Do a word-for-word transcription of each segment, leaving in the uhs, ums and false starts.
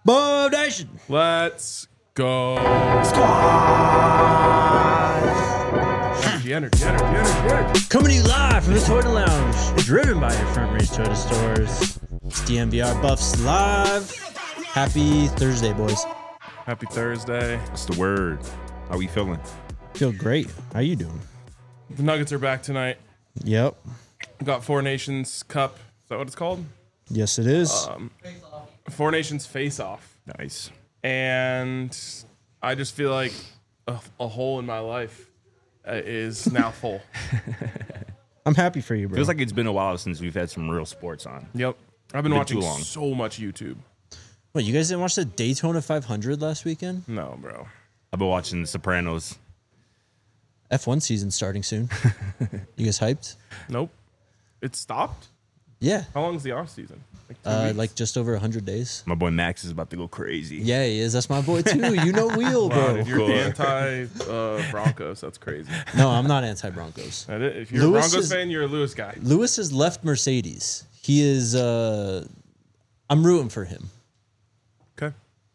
Bob Nation. Let's go. Squad. Energy, energy, energy, energy, energy. Coming to you live from the Toyota Lounge, driven by your Front Range Toyota stores. It's D M V R Buffs live. Happy Thursday, boys. Happy Thursday. What's the word? How we feeling? Feel great. How you doing? The Nuggets are back tonight. Yep. We got Four Nations Cup. Is that what it's called? Yes, it is. Um, Four Nations Face Off. Nice. And I just feel like a, a hole in my life uh, is now full. I'm happy for you, bro. Feels like it's been a while since we've had some real sports on. Yep. I've been, Been watching too long. so much YouTube. What, you guys didn't watch the Daytona five hundred last weekend? No, bro. I've been watching The Sopranos. F one season starting soon. You guys hyped? Nope. It stopped? Yeah. How long is the off season? Like, two Uh, weeks? like just over one hundred days. My boy Max is about to go crazy. Yeah, he is. That's my boy, too. You know Wheel, Wow, bro. if you're Cool. anti uh, Broncos, that's crazy. No, I'm not anti-Broncos. That is- If you're Lewis a Broncos is- fan, you're a Lewis guy. Lewis has left Mercedes. He is, uh, I'm rooting for him. Okay.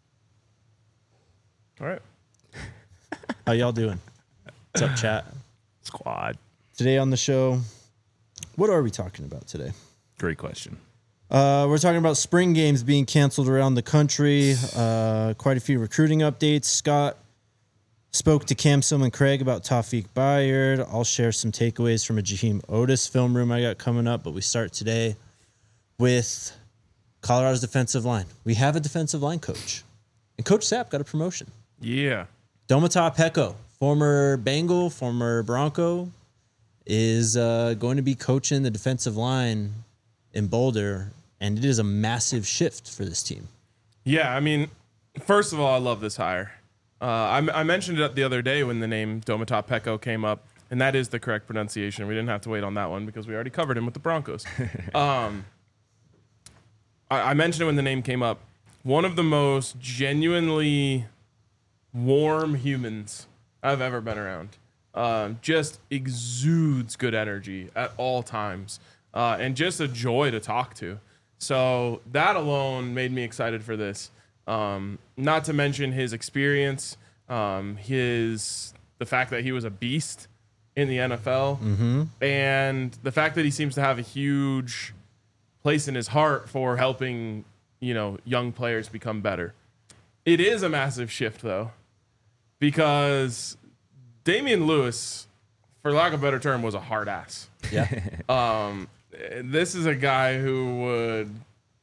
All right. How y'all doing? What's up, chat? Squad. Today on the show, what are we talking about today? Great question. Uh, we're talking about spring games being canceled around the country. Uh, quite a few recruiting updates. Scott spoke to Cam Sim and Craig about Tawfiq Bayard. I'll share some takeaways from a Jaheim Otis film room I got coming up. But we start today with Colorado's defensive line. We have a defensive line coach. And Coach Sapp got a promotion. Yeah. Domata Peko, former Bengal, former Bronco, is uh, going to be coaching the defensive line in Boulder, and it is a massive shift for this team. Yeah, I mean, first of all, I love this hire. Uh, I, I mentioned it the other day when the name Domata Peko came up, and that is the correct pronunciation. We didn't have to wait on that one because we already covered him with the Broncos. um, I, I mentioned it when the name came up. One of the most genuinely warm humans I've ever been around. Um, just exudes good energy at all times, uh, and just a joy to talk to. So that alone made me excited for this. Um, not to mention his experience, um, his the fact that he was a beast in the N F L, Mm-hmm. and the fact that he seems to have a huge place in his heart for helping, you know, young players become better. It is a massive shift, though, because Damian Lewis, for lack of a better term, was a hard ass. Yeah. Um, this is a guy who would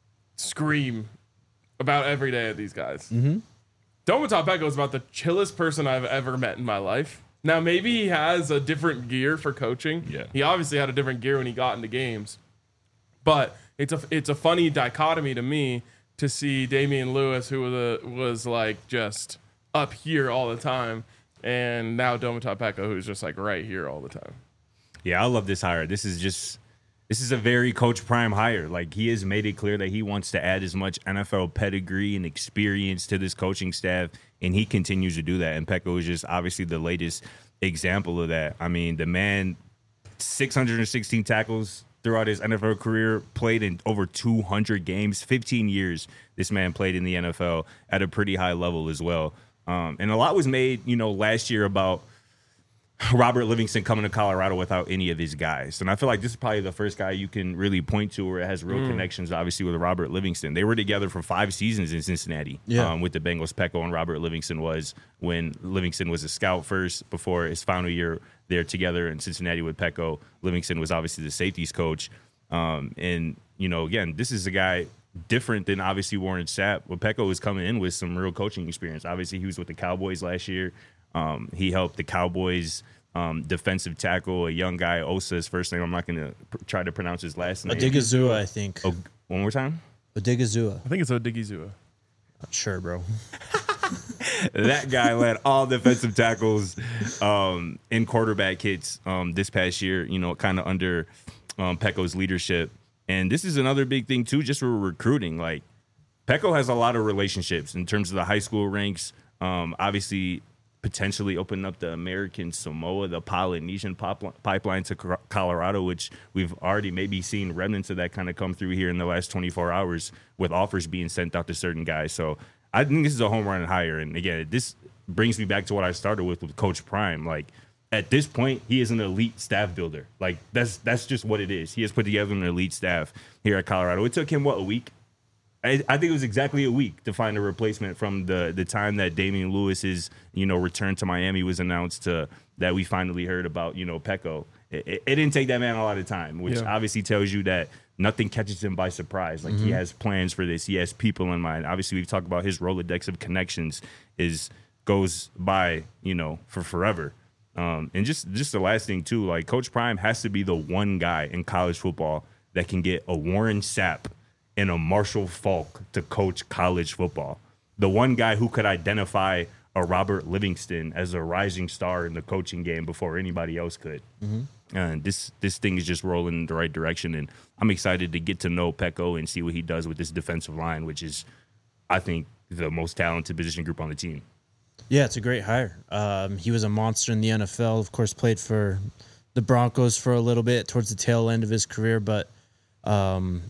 scream about every day at these guys. Mm-hmm. Domata Peko is about the chillest person I've ever met in my life. Now, maybe he has a different gear for coaching. Yeah. He obviously had a different gear when he got into games. But it's a it's a funny dichotomy to me to see Damian Lewis, who was, a, was like just up here all the time, and now Domata Peko, who's just like right here all the time. Yeah, I love this hire. This is just this is a very Coach Prime hire. Like, he has made it clear that he wants to add as much N F L pedigree and experience to this coaching staff, and he continues to do that. And Peko is just obviously the latest example of that. I mean, the man, six hundred sixteen tackles throughout his N F L career, played in over two hundred games, fifteen years this man played in the N F L at a pretty high level as well. Um, and a lot was made, you know, last year about Robert Livingston coming to Colorado without any of his guys. And I feel like this is probably the first guy you can really point to where it has real mm. connections, obviously, with Robert Livingston. They were together for five seasons in Cincinnati yeah. um, with the Bengals. Peko and Robert Livingston was when Livingston was a scout first before his final year there together in Cincinnati with Peko. Livingston was obviously the safeties coach. Um, and, you know, again, this is a guy different than obviously Warren Sapp. But Peko is coming in with some real coaching experience. Obviously, he was with the Cowboys last year. Um, he helped the Cowboys um, defensive tackle, a young guy, Osa's first name. I'm not going to pr- try to pronounce his last name. Odigizua, I think. Oh, one more time? Odigizua. I think it's Odigizua. Not sure, bro. That guy led all defensive tackles um, in quarterback hits um, this past year, you know, kind of under um, Peko's leadership. And this is another big thing, too, just for recruiting. Like, Peko has a lot of relationships in terms of the high school ranks. Um, obviously, potentially open up the American Samoa, the Polynesian pop- pipeline to Colorado, which we've already maybe seen remnants of that kind of come through here in the last twenty-four hours with offers being sent out to certain guys. So I think this is a home run hire. And again, this brings me back to what I started with with Coach Prime. Like, at this point, he is an elite staff builder. Like, that's that's just what it is. He has put together an elite staff here at Colorado. It took him, what, a week? I, I think it was exactly a week to find a replacement from the the time that Damian Lewis's, you know, return to Miami was announced to that we finally heard about, you know, Peko. It, it, it didn't take that man a lot of time, which yeah. obviously tells you that nothing catches him by surprise. Like, mm-hmm. he has plans for this. He has people in mind. Obviously, we've talked about his Rolodex of connections is goes by, you know, for forever. Um, and just, just the last thing, too, like, Coach Prime has to be the one guy in college football that can get a Warren Sapp and a Marshall Faulk to coach college football. The one guy who could identify a Robert Livingston as a rising star in the coaching game before anybody else could. Mm-hmm. And this this thing is just rolling in the right direction, and I'm excited to get to know Peko and see what he does with this defensive line, which is, I think, the most talented position group on the team. Yeah, it's a great hire. Um, he was a monster in the N F L. Of course, played for the Broncos for a little bit towards the tail end of his career. But, um,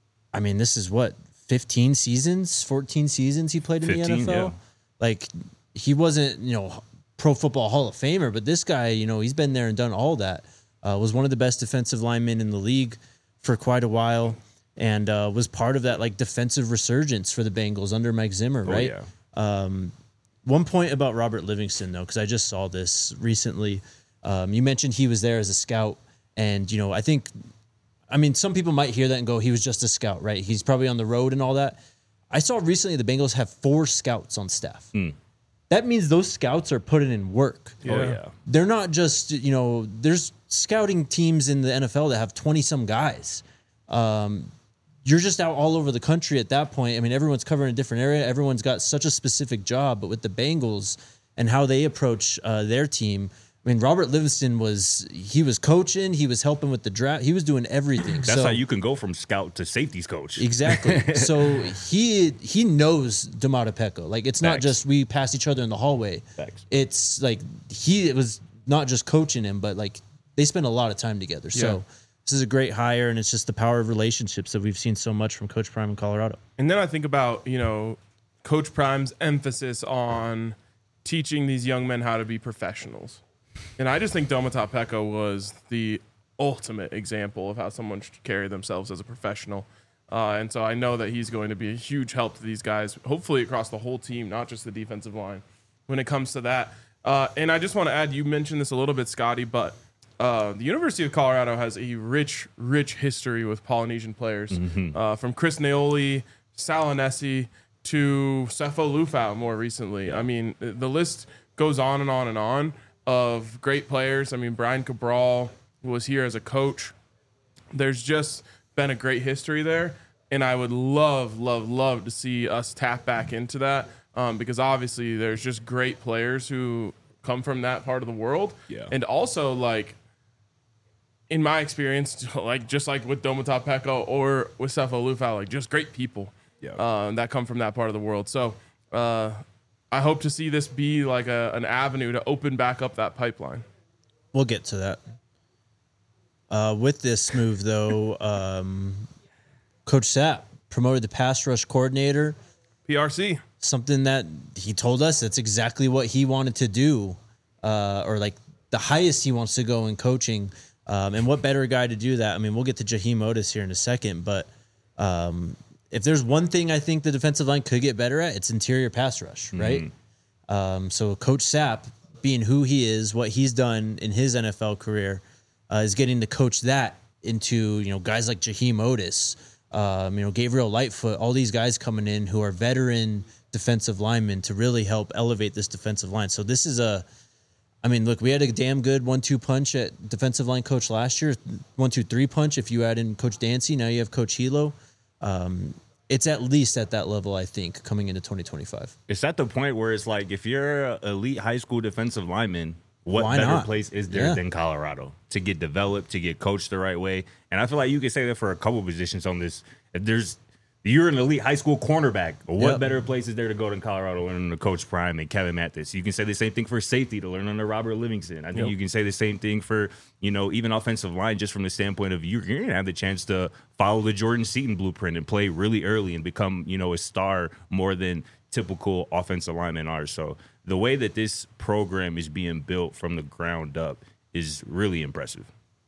I mean, this is what, fifteen seasons, fourteen seasons he played in fifteen, the N F L? Yeah. Like, he wasn't, you know, Pro Football Hall of Famer, but this guy, you know, he's been there and done all that. Uh, was one of the best defensive linemen in the league for quite a while, and uh, was part of that, like, defensive resurgence for the Bengals under Mike Zimmer, right? Oh, yeah. Um, one point about Robert Livingston, though, because I just saw this recently. Um, you mentioned he was there as a scout, and, you know, I think, I mean, some people might hear that and go, he was just a scout, right? He's probably on the road and all that. I saw recently the Bengals have four scouts on staff. Mm. That means those scouts are putting in work. Yeah. Oh, yeah. They're not just, you know, there's scouting teams in the N F L that have twenty-some guys. Um, you're just out all over the country at that point. I mean, everyone's covering a different area. Everyone's got such a specific job. But with the Bengals and how they approach uh, their team, I mean, Robert Livingston was, he was coaching, he was helping with the draft, he was doing everything. That's so, how you can go from scout to safeties coach. Exactly. So he he knows Domata Peko. Like, it's not Facts. just we pass each other in the hallway. Facts. It's like he it was not just coaching him, but like they spend a lot of time together. So Yeah. this is a great hire, and it's just the power of relationships that we've seen so much from Coach Prime in Colorado. And then I think about, you know, Coach Prime's emphasis on teaching these young men how to be professionals. And I just think Domata Peko was the ultimate example of how someone should carry themselves as a professional. Uh, and so I know that he's going to be a huge help to these guys, hopefully across the whole team, not just the defensive line, when it comes to that. Uh, and I just want to add, you mentioned this a little bit, Scotty, but uh, the University of Colorado has a rich, rich history with Polynesian players. Mm-hmm. Uh, from Chris Naoli, Salanesi, to Sefo Lufau more recently. Yeah. I mean, the list goes on and on and on of great players. I mean, Brian Cabral was here as a coach. There's just been a great history there, and I would love, love, love to see us tap back into that um, because obviously there's just great players who come from that part of the world. Yeah. And also, like, in my experience, like just like with Domata Peko or with Sefo Lufau, like just great people Yeah. um, that come from that part of the world. So, uh, I hope to see this be like a, an avenue to open back up that pipeline. We'll get to that. Uh, with this move, though, um, Coach Sapp promoted the pass rush coordinator. P R C. Something that he told us that's exactly what he wanted to do, uh, or like the highest he wants to go in coaching. Um, and what better guy to do that? I mean, we'll get to Jaheim Otis here in a second, but um, if there's one thing I think the defensive line could get better at, it's interior pass rush, right? Mm-hmm. Um, so Coach Sapp, being who he is, what he's done in his N F L career, uh, is getting to coach that into, you know, guys like Jaheim Otis, um, you know, Gabriel Lightfoot, all these guys coming in who are veteran defensive linemen to really help elevate this defensive line. So this is a, I mean, look, we had a damn good one two punch at defensive line coach last year, one two three punch if you add in Coach Dancy. Now you have Coach Hilo. Um, it's at least at that level, I think, coming into twenty twenty-five. It's at the point where it's like, if you're an elite high school defensive lineman, what Why better not? place is there Yeah. than Colorado to get developed, to get coached the right way? And I feel like you could say that for a couple positions on this. If there's you're an elite high school cornerback, what Yep. better place is there to go than Colorado and under Coach Prime and Kevin Mathis? You can say the same thing for safety to learn under Robert Livingston. I think Yep. you can say the same thing for, you know, even offensive line, just from the standpoint of you're going to have the chance to follow the Jordan Seaton blueprint and play really early and become, you know, a star more than typical offensive linemen are. So the way that this program is being built from the ground up is really impressive.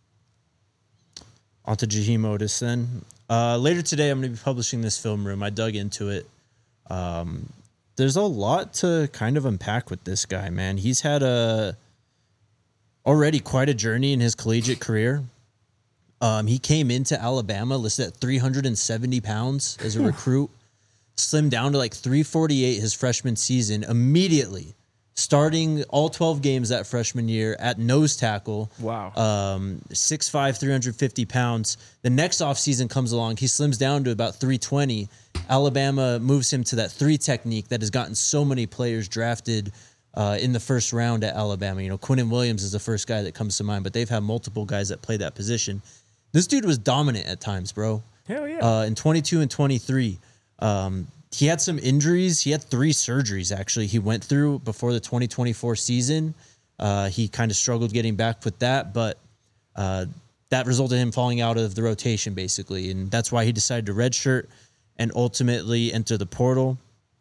On to Jaheim Otis then. Uh, later today, I'm going to be publishing this film room. I dug into it. Um, there's a lot to kind of unpack with this guy, man. He's had a already quite a journey in his collegiate career. Um, he came into Alabama listed at three hundred seventy pounds as a recruit, slimmed down to like three forty-eight his freshman season, immediately starting all twelve games that freshman year at nose tackle. Wow. Um, six five, three hundred fifty pounds. The next offseason comes along. He slims down to about three twenty. Alabama moves him to that three technique that has gotten so many players drafted uh, in the first round at Alabama. You know, Quinnen Williams is the first guy that comes to mind, but they've had multiple guys that play that position. This dude was dominant at times, bro. Hell yeah. Uh, in twenty-two and twenty-three. Um, he had some injuries. He had three surgeries, actually, he went through before the twenty twenty-four season. Uh, he kind of struggled getting back with that, but uh, that resulted in him falling out of the rotation, basically. And that's why he decided to redshirt and ultimately enter the portal.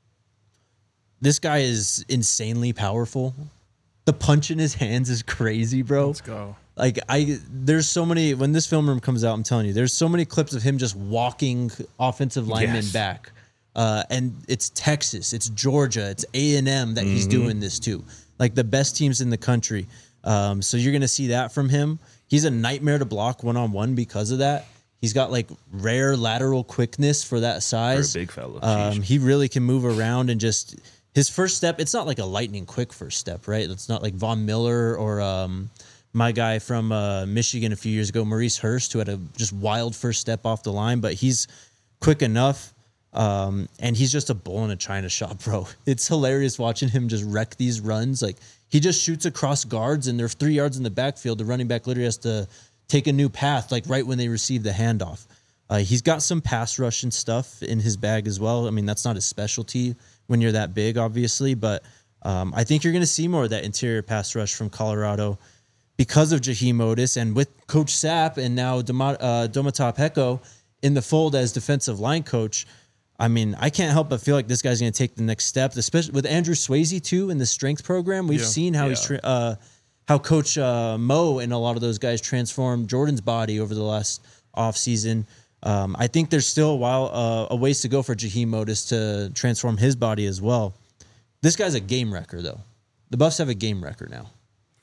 This guy is insanely powerful. The punch in his hands is crazy, bro. Let's go. Like I, there's so many, when this film room comes out, I'm telling you, there's so many clips of him just walking offensive linemen Yes. back. Uh, and it's Texas, it's Georgia, it's A and M that he's doing this to. Like the best teams in the country. Um, so you're going to see that from him. He's a nightmare to block one-on-one because of that. He's got like rare lateral quickness for that size. For a big fella. Um, Sheesh. he really can move around and just his first step. It's not like a lightning quick first step, right? It's not like Von Miller or um, my guy from uh, Michigan a few years ago, Maurice Hurst, who had a just wild first step off the line, but he's quick enough. Um, and he's just a bull in a china shop, bro. It's hilarious watching him just wreck these runs. Like he just shoots across guards and they're three yards in the backfield. The running back literally has to take a new path, like right when they receive the handoff. Uh, he's got some pass rush and stuff in his bag as well. I mean, that's not his specialty when you're that big, obviously, but um, I think you're going to see more of that interior pass rush from Colorado because of Jaheim Otis and with Coach Sapp and now Doma, uh, Domata Peko in the fold as defensive line coach. I mean, I can't help but feel like this guy's going to take the next step, especially with Andrew Swayze too in the strength program. We've Yeah. seen how Yeah. he's tra- uh, how Coach uh, Mo and a lot of those guys transformed Jordan's body over the last offseason. Um, I think there's still a while, uh, a ways to go for Jaheim Otis to transform his body as well. This guy's a game wrecker, though. The Buffs have a game wrecker now.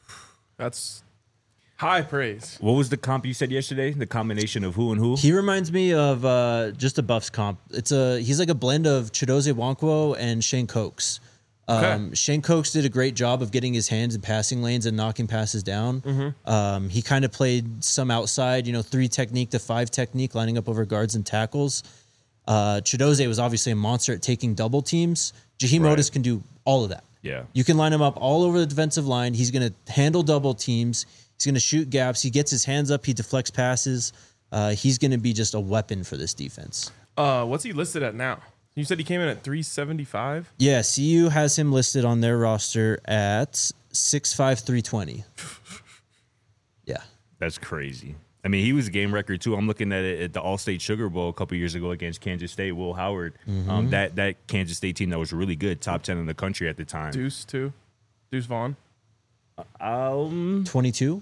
That's high praise. What was the comp you said yesterday? The combination of who and who? He reminds me of uh, just a Buffs comp. It's a he's like a blend of Chidozie Nwankwo and Shane Cokes. Um, Okay. Shane Cokes did a great job of getting his hands in passing lanes and knocking passes down. Mm-hmm. Um, he kind of played some outside, you know, three technique to five technique, lining up over guards and tackles. Uh, Chidozie was obviously a monster at taking double teams. Jaheim Right. Otis can do all of that. Yeah. You can line him up all over the defensive line. He's going to handle double teams. He's going to shoot gaps. He gets his hands up. He deflects passes. Uh, he's going to be just a weapon for this defense. Uh, what's he listed at now? You said he came in at three seventy-five? Yeah, C U has him listed on their roster at six five, three twenty. Yeah. That's crazy. I mean, he was a game record too. I'm looking at it at the All-State Sugar Bowl a couple years ago against Kansas State. Will Howard, um, that that Kansas State team that was really good, top ten in the country at the time. Deuce, too. Deuce Vaughn. Um, twenty-two?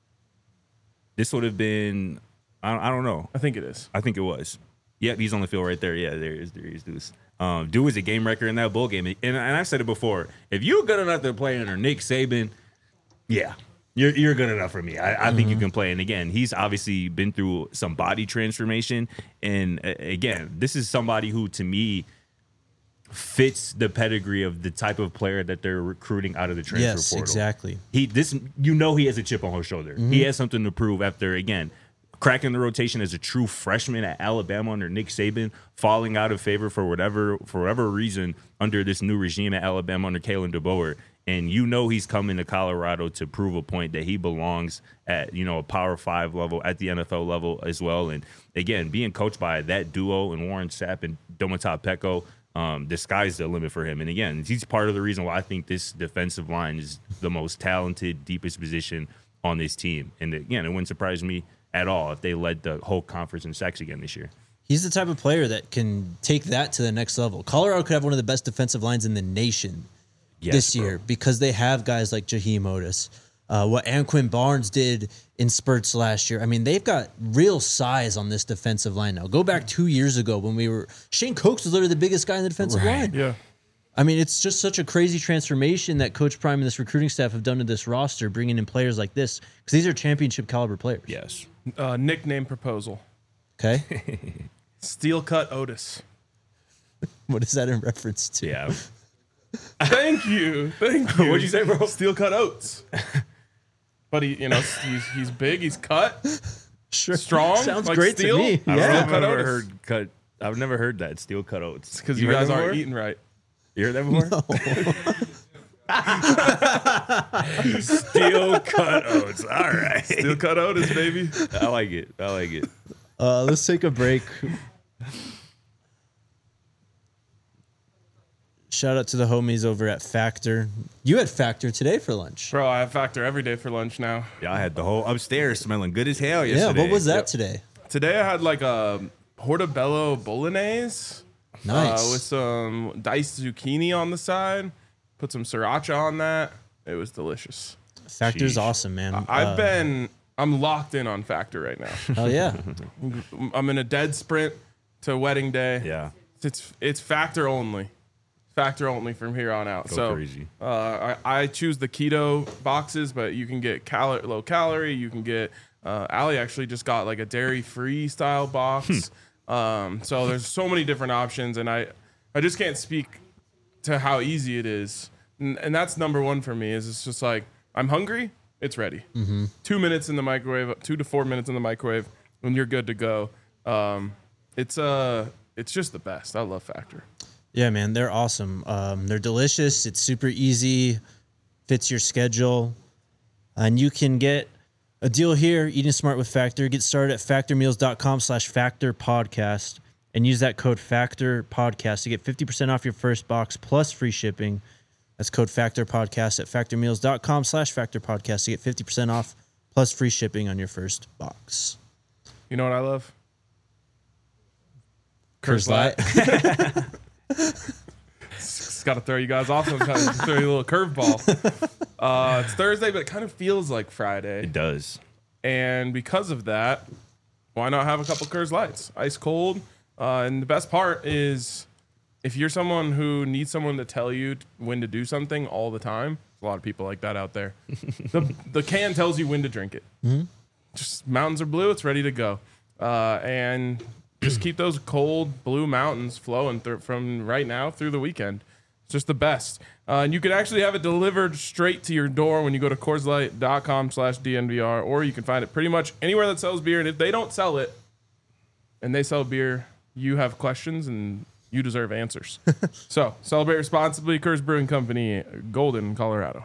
this would have been. I don't, I don't know. I think it is. I think it was. Yep, he's on the field right there. Yeah, there is. There is Deuce. Um, Dude was a game record in that bowl game, and, and I've said it before. If you're good enough to play under Nick Saban, yeah, you're you're good enough for me. I, I think you can play. And again, he's obviously been through some body transformation. And uh, again, this is somebody who, to me, fits the pedigree of the type of player that they're recruiting out of the transfer Yes, portal. exactly. He this you know he has a chip on his shoulder. He has something to prove after again cracking the rotation as a true freshman at Alabama under Nick Saban, falling out of favor for whatever for whatever reason under this new regime at Alabama under Kalen DeBoer. And you know he's coming to Colorado to prove a point that he belongs at, you know, a Power Five level, at the N F L level as well. And again, being coached by that duo and Warren Sapp and Domata Peko, um, the sky's the limit for him. And again, he's part of the reason why I think this defensive line is the most talented, deepest position on this team. And again, it wouldn't surprise me at all if they led the whole conference in sacks again this year. He's the type of player that can take that to the next level. Colorado could have one of the best defensive lines in the nation Yes, this bro. year because they have guys like Jaheim Otis. Uh, what Anquin Barnes did in spurts last year. I mean, they've got real size on this defensive line now. Go back two years ago when we were Shane Coates was literally the biggest guy in the defensive Right. line. Yeah. I mean, it's just such a crazy transformation that Coach Prime and this recruiting staff have done to this roster, bringing in players like this because these are championship caliber players. Yes. Uh, nickname proposal. Okay, Steel cut Otis. what is that in reference to? Yeah. Thank you. Thank you. What'd you say, bro? Steel cut oats. But he, you know, he's he's big, he's cut, Sure, strong. sounds like great steel. to me. I don't know Yeah, if I've Cut ever Otis. heard cut. I've never heard that steel cut oats. Because you, guys aren't eating right. You heard that before? Steel cut oats. All right. Steel cut Otis, baby. I like it. I like it. uh, let's take a break. Shout out to the homies over at Factor. You had Factor today for lunch. Bro, I have Factor every day for lunch now. Yeah, I had the whole upstairs smelling good as hell yesterday. Yeah, what was that Yep. today? Today I had like a portobello bolognese. Nice. Uh, with some diced zucchini on the side. Put some sriracha on that. It was delicious. Factor's Sheesh. awesome, man. I've Uh, been, I'm locked in on Factor right now. Oh yeah. I'm in a dead sprint to wedding day. Yeah. It's it's Factor only. Factor only from here on out. Go so crazy. Uh, I, I choose the keto boxes, but you can get cal- low calorie. You can get. Uh, Allie actually just got like a dairy free style box. um, so there's so many different options, and I I just can't speak to how easy it is. And, and that's number one for me. Is it's just like I'm hungry, it's ready. Two minutes in the microwave, two to four minutes in the microwave, and you're good to go. Um, it's uh, it's just the best. I love Factor. Yeah, man, they're awesome. Um, they're delicious. It's super easy, fits your schedule, and you can get a deal here. Eating smart with Factor. Get started at factormeals.com slash factor podcast and use that code Factor Podcast to get fifty percent off your first box plus free shipping. That's code Factor Podcast at factormeals.com slash factor podcast to get fifty percent off plus free shipping on your first box. You know what I love? Curse Light. Just got to throw you guys off sometimes. Just throw you a little curveball. Uh, it's Thursday, but it kind of feels like Friday. It does. And because of that, why not have a couple Coors Lights? Ice cold. Uh, and the best part is if you're someone who needs someone to tell you when to do something all the time, there's a lot of people like that out there. the, the can tells you when to drink it. Mm-hmm. Just mountains are blue, it's ready to go. Uh, and just keep those cold blue mountains flowing through, from right now through the weekend. It's just the best. Uh, and you can actually have it delivered straight to your door when you go to CoorsLight.com slash DNVR, or you can find it pretty much anywhere that sells beer. And if they don't sell it and they sell beer, you have questions and you deserve answers. So celebrate responsibly. Coors Brewing Company, Golden, Colorado.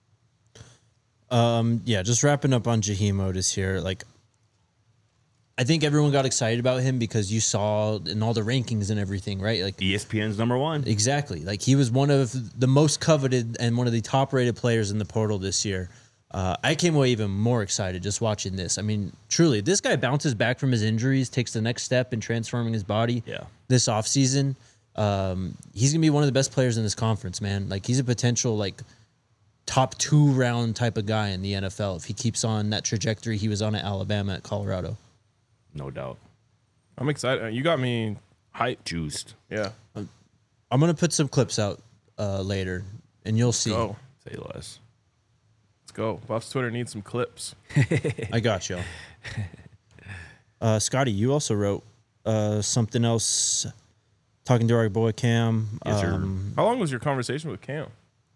Um, yeah, just wrapping up on Jaheim Otis here. Like, I think everyone got excited about him because you saw in all the rankings and everything, right? Like, E S P N's number one. exactly. Like, he was one of the most coveted and one of the top rated players in the portal this year. Uh, I came away even more excited just watching this. I mean, truly, this guy bounces back from his injuries, takes the next step in transforming his body. Yeah. This offseason, um, he's gonna be one of the best players in this conference, man. Like, he's a potential like top two round type of guy in the N F L if he keeps on that trajectory he was on at Alabama, at Colorado. No doubt. I'm excited. You got me hyped. Juiced. Yeah. I'm gonna put some clips out uh, later, and you'll see. Go. Say less. Let's go. Buff's Twitter needs some clips. I got you. Uh, Scotty, you also wrote uh, something else talking to our boy Cam. Yes, sir. um, How long was your conversation with Cam?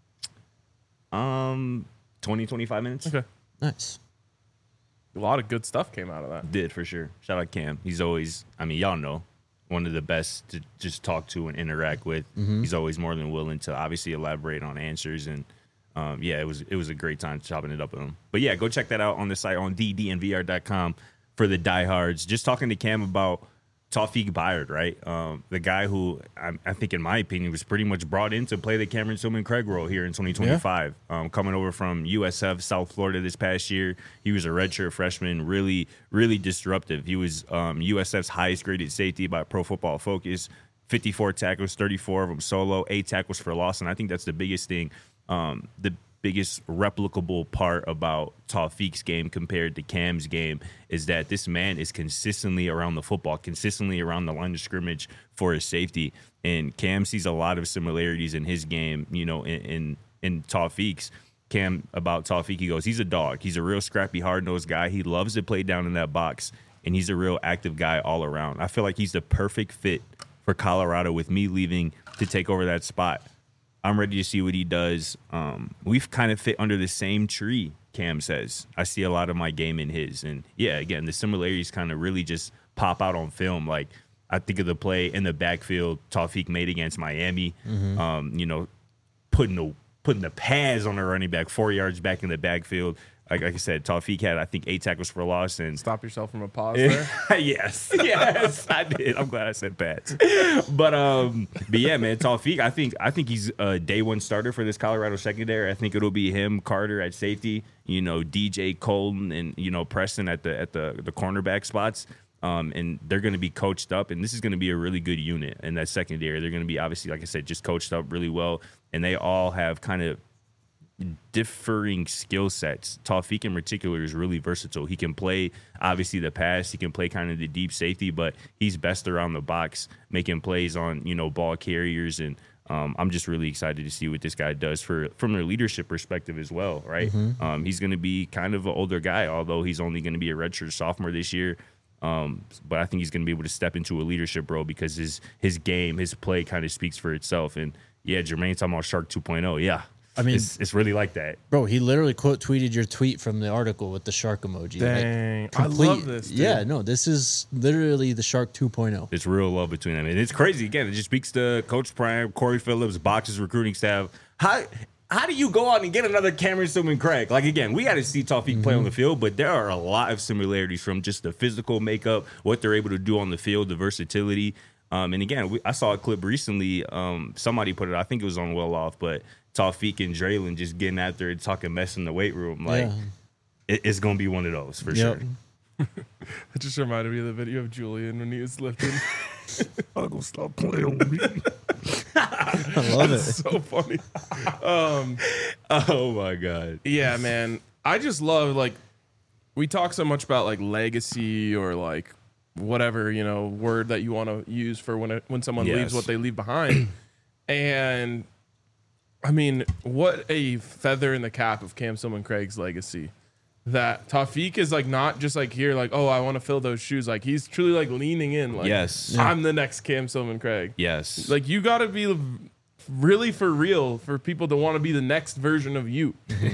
Um, twenty, twenty-five minutes. Okay. nice. A lot of good stuff came out of that. Did for sure. Shout out Cam. He's always, I mean, y'all know, one of the best to just talk to and interact with. He's always more than willing to obviously elaborate on answers. And um, yeah, it was it was a great time chopping it up with him. But yeah, go check that out on the site on D D N V R dot com for the diehards. Just talking to Cam about Tawfiq Bayard, right? Um, the guy who I, I think, in my opinion, was pretty much brought in to play the Cameron Tillman Craig role here in twenty twenty-five. Yeah. Um, coming over from U S F South Florida this past year, he was a redshirt freshman, really, really disruptive. He was um, U S F's highest graded safety by Pro Football Focus. fifty-four tackles, thirty-four of them solo, eight tackles for loss, and I think that's the biggest thing. Um, the biggest replicable part about Tawfiq's game compared to Cam's game is that this man is consistently around the football, consistently around the line of scrimmage for his safety. And Cam sees a lot of similarities in his game, you know, in in, in Tawfiq's. Cam, about Tawfiq, he goes, he's a dog. He's a real scrappy, hard-nosed guy. He loves to play down in that box, and he's a real active guy all around. I feel like he's the perfect fit for Colorado with me leaving to take over that spot. I'm ready to see what he does. Um, we've kind of fit under the same tree, Cam says. I see a lot of my game in his. And, yeah, again, the similarities kind of really just pop out on film. Like, I think of the play in the backfield Tawfiq made against Miami, mm-hmm. um, you know, putting the putting the pads on the running back four yards back in the backfield. Like, like I said, Tawfiq had, I think, eight tackles for loss. And stop yourself from a pause there. yes, yes, I did. I'm glad I said pads. But um, but yeah, man, Tawfiq, I think I think he's a day one starter for this Colorado secondary. I think it'll be him, Carter at safety, you know, D J Colton, and you know Preston at the at the the cornerback spots. Um, and they're going to be coached up, and this is going to be a really good unit in that secondary. They're going to be, obviously, like I said, just coached up really well, and they all have kind of differing skill sets. Tawfiq in particular is really versatile. He can play, obviously, the pass. He can play kind of the deep safety, but he's best around the box, making plays on, you know, ball carriers. And um, I'm just really excited to see what this guy does for from a leadership perspective as well, right? Mm-hmm. Um, he's going to be kind of an older guy, although he's only going to be a redshirt sophomore this year. Um, but I think he's going to be able to step into a leadership role because his his game, his play kind of speaks for itself. And, yeah, Jermaine talking about Shark two point oh, yeah. I mean, it's, it's really like that, bro. He literally quote tweeted your tweet from the article with the shark emoji. Dang, like, complete, I love this. Dude. Yeah, no, this is literally the Shark two point oh. It's real love between them, and it's crazy. Again, it just speaks to Coach Prime, Corey Phillips, Box's recruiting staff. How how do you go out and get another Cameron Tillman Craig? Like, again, we got to see Tawfiq mm-hmm. play on the field, but there are a lot of similarities from just the physical makeup, what they're able to do on the field, the versatility. Um, and again, we, I saw a clip recently. Um, somebody put it. I think it was on Well Off, but Tawfiq and Draylon just getting after it, talking mess in the weight room. Like, yeah. it, it's gonna be one of those for yep. sure. It just reminded me of the video of Julian when he was lifting. I'm gonna stop playing with me. I love That's it. So funny. Um, oh my god. Yeah, man. I just love, like, we talk so much about like legacy or like whatever, you know, word that you want to use for when it, when someone yes. leaves what they leave behind. And I mean, what a feather in the cap of Cam Tillman Craig's legacy. That Tawfiq is like not just like here, like, oh, I want to fill those shoes. Like, he's truly like leaning in. Like, yes, I'm the next Cam Tillman Craig. Yes. Like, you got to be really for real for people to want to be the next version of you.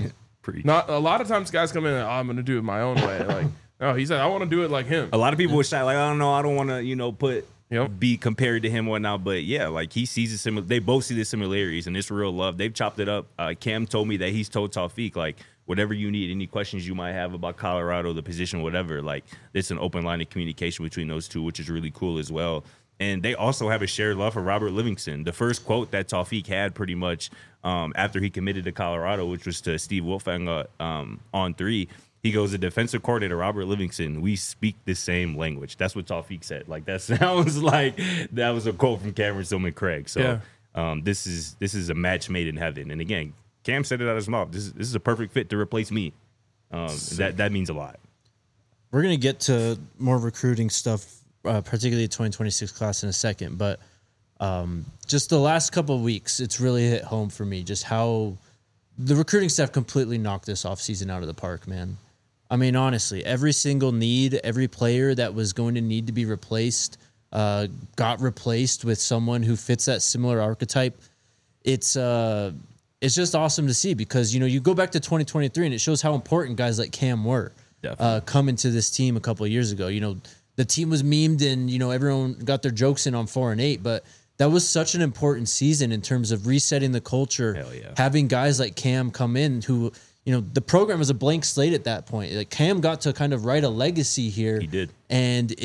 Not a lot of times guys come in and, oh, I'm going to do it my own way. Like, no, he said, I want to do it like him. A lot of people would say, like, I don't know, I don't want to, you know, put, yep. be compared to him or whatnot. But yeah, like, he sees the similar, they both see the similarities and it's real love. They've chopped it up. Uh, Cam told me that he's told Tawfiq, like, whatever you need, any questions you might have about Colorado, the position, whatever, like, it's an open line of communication between those two, which is really cool as well. And they also have a shared love for Robert Livingston. The first quote that Tawfiq had pretty much um, after he committed to Colorado, which was to Steve Wilfang um, on three, he goes, the defensive coordinator, Robert Livingston, we speak the same language. That's what Tawfiq said. Like, that sounds like that was a quote from Cameron Tillman Craig. So yeah. um, this is this is a match made in heaven. And again, Cam said it out of his mouth. This is, this is a perfect fit to replace me. Um, that that means a lot. We're going to get to more recruiting stuff, uh, particularly the twenty twenty-six class in a second. But um, just the last couple of weeks, it's really hit home for me just how the recruiting staff completely knocked this offseason out of the park, man. I mean, honestly, every single need, every player that was going to need to be replaced uh, got replaced with someone who fits that similar archetype. It's... Uh, It's just awesome to see because, you know, you go back to twenty twenty-three and it shows how important guys like Cam were uh, coming to this team a couple of years ago. You know, the team was memed and, you know, everyone got their jokes in on four and eight, but that was such an important season in terms of resetting the culture, yeah. having guys like Cam come in who, you know, the program was a blank slate at that point. Like Cam got to kind of write a legacy here. He did. And it's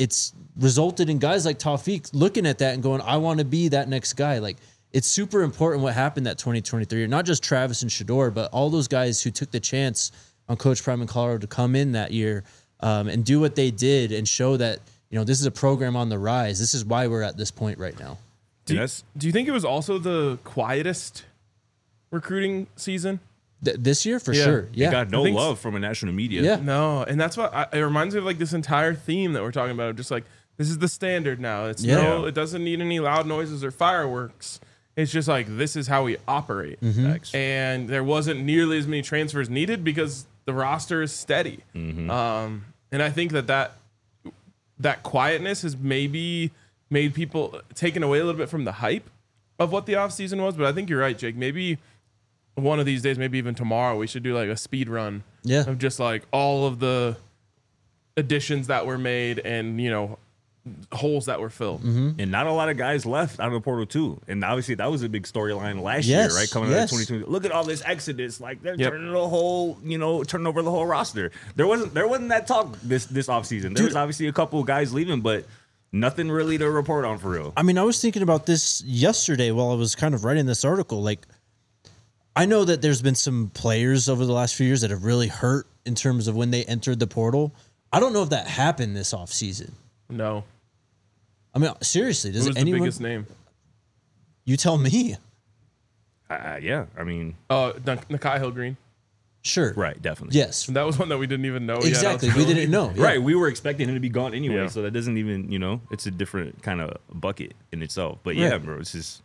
resulted in guys like Tawfiq looking at that and going, I want to be that next guy. Like, it's super important what happened that twenty twenty-three. Not just Travis and Shedeur, but all those guys who took the chance on Coach Prime in Colorado to come in that year um, and do what they did and show that, you know, this is a program on the rise. This is why we're at this point right now. Do you, Yes. do you think it was also the quietest recruiting season? Th- this year, for Yeah. sure. It Yeah. got no I think love from a national media. Yeah. No, and that's what I, it reminds me of, like this entire theme that we're talking about. Just like this is the standard now. It's Yeah. no, it doesn't need any loud noises or fireworks. It's just like this is how we operate. Facts. And there wasn't nearly as many transfers needed because the roster is steady. Um, and I think that, that that quietness has maybe made people taken away a little bit from the hype of what the offseason was. But I think you're right, Jake. Maybe one of these days, maybe even tomorrow, we should do like a speed run Yeah. of just like all of the additions that were made and, you know, holes that were filled. And not a lot of guys left out of the portal too. And obviously that was a big storyline last Yes, year, right? Coming out yes. of twenty twenty. Look at all this exodus. Like they're Yep. turning the whole, you know, turning over the whole roster. There wasn't there wasn't that talk this this offseason. There Dude. was obviously a couple of guys leaving, but nothing really to report on for real. I mean, I was thinking about this yesterday while I was kind of writing this article. Like, I know that there's been some players over the last few years that have really hurt in terms of when they entered the portal. I don't know if that happened this offseason. No. I mean, seriously, does Who was anyone? the biggest name? You tell me. Uh, yeah, I mean, Oh, uh, Nakai Hill Green. Sure. right, definitely. Yes. That was one that we didn't even know. he had Exactly. We eligibility. didn't know. Yeah. Right, we were expecting him to be gone anyway, Yeah. so that doesn't even, you know, it's a different kind of bucket in itself. But yeah, Right. bro, it's just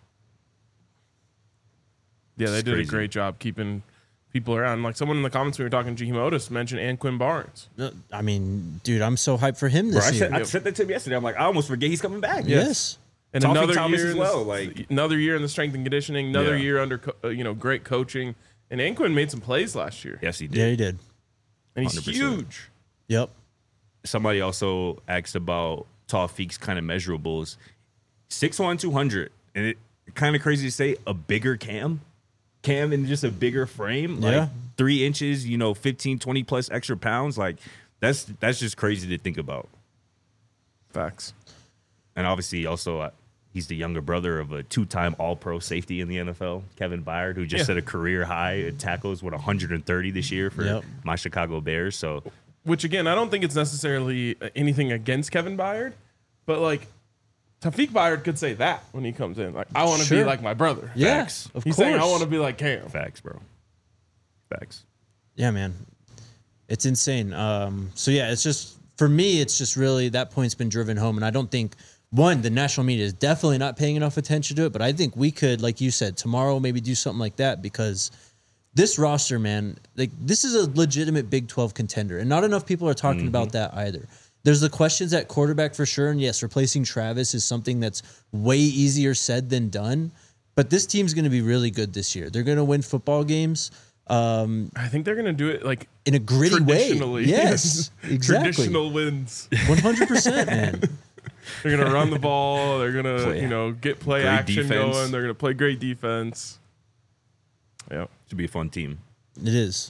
Yeah, they It's did crazy. a great job keeping people around. Like someone in the comments we were talking, Jaheim Otis mentioned Anquin Barnes. No, I mean, dude, I'm so hyped for him bro, this I year. said, I said that to him yesterday. I'm like, I almost forget he's coming back. Yes. And Toffee another Thomas year as in well, the, like- another year in the strength and conditioning, another Yeah. year under co- uh, you know great coaching. And Anquin made some plays last year, Yes, he did. Yeah, he did. and he's one hundred percent. huge. Yep. Somebody also asked about Tawfiq's kind of measurables. six one, two hundred. And it kind of crazy to say a bigger Cam. Cam in just a bigger frame. Like Yeah. three inches, you know, fifteen, twenty plus extra pounds. Like that's that's just crazy to think about. Facts. And obviously also uh, he's the younger brother of a two-time all-pro safety in the N F L, Kevin Byard, who just Yeah. set a career high in tackles with one hundred thirty this year for Yep. my Chicago Bears. So Which again, I don't think it's necessarily anything against Kevin Byard, but like Tawfiq Byard could say that when he comes in. Like, I want to Sure. be like my brother. Yeah, Facts. of He's course. saying I want to be like Cam. facts, bro. Facts. Yeah, man. It's insane. Um, so yeah, it's just for me, it's just really that point's been driven home, and I don't think one, the national media is definitely not paying enough attention to it, but I think we could, like you said, tomorrow maybe do something like that because this roster, man, like this is a legitimate Big twelve contender, and not enough people are talking about that either. There's the questions at quarterback for sure, and yes, replacing Travis is something that's way easier said than done. But this team's going to be really good this year. They're going to win football games. Um, I think they're gonna do it like in a gritty way. traditionally. Yes, exactly. Traditional wins. one hundred percent, man. They're gonna run the ball. They're gonna Play- you know get play great action defense. going. They're gonna play great defense. Yeah. Should be a fun team. It is.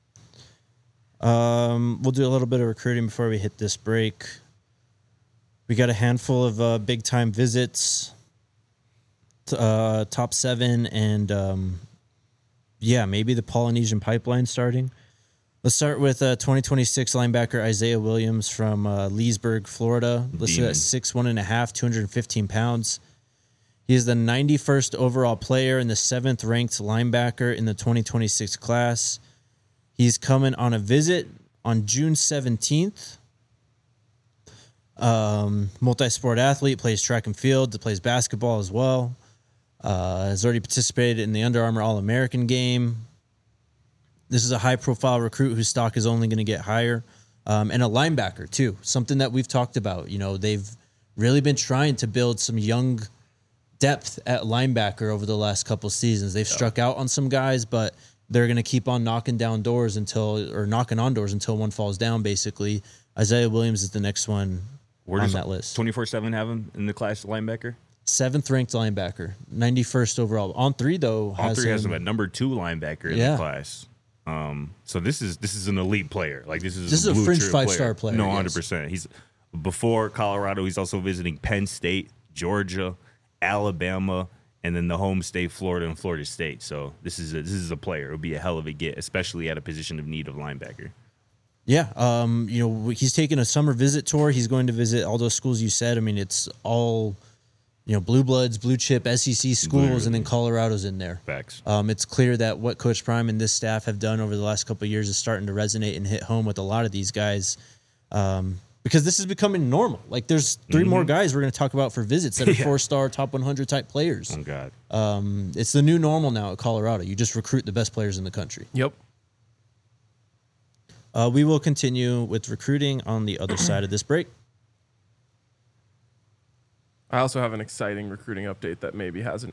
Um, we'll do a little bit of recruiting before we hit this break. We got a handful of uh, big time visits, t- uh, top seven, and um, yeah, maybe the Polynesian pipeline starting. Let's start with uh, twenty twenty-six linebacker Isaiah Williams from uh, Leesburg, Florida. Listed Demon. at six one and a half, two hundred fifteen pounds. He is the ninety-first overall player and the seventh ranked linebacker in the twenty twenty-six class. He's coming on a visit on June seventeenth. Um, multi-sport athlete, plays track and field, plays basketball as well. Uh, has already participated in the Under Armour All-American game. This is a high-profile recruit whose stock is only going to get higher. Um, and a linebacker, too. Something that we've talked about. You know, they've really been trying to build some young depth at linebacker over the last couple seasons. They've struck out on some guys, but they're going to keep on knocking down doors until, or knocking on doors until one falls down, basically. Isaiah Williams is the next one Where on does that list. twenty-four seven have him in the class linebacker? Seventh ranked linebacker, ninety-first overall. On three, though, All has three has him- him at number two linebacker in Yeah. the class. Um, so this is this is an elite player. Like this is This is a blue fringe chip five-star player, No, yes. hundred percent. He's Before Colorado, he's also visiting Penn State, Georgia, Alabama, and then the home state, Florida and Florida State. So this is a, this is a player. It'll be a hell of a get, especially at a position of need of linebacker. Yeah, um, you know, he's taking a summer visit tour. He's going to visit all those schools you said. I mean, it's all, you know, blue bloods, blue chip, S E C schools, Literally. and then Colorado's in there. Facts. Um, it's clear that what Coach Prime and this staff have done over the last couple of years is starting to resonate and hit home with a lot of these guys, um, because this is becoming normal. Like, there's three Mm-hmm. more guys we're going to talk about for visits that are Yeah. four-star, top one hundred type players. Oh, God. Um, it's the new normal now at Colorado. You just recruit the best players in the country. Yep. Uh, we will continue with recruiting on the other side of this break. I also have an exciting recruiting update that maybe hasn't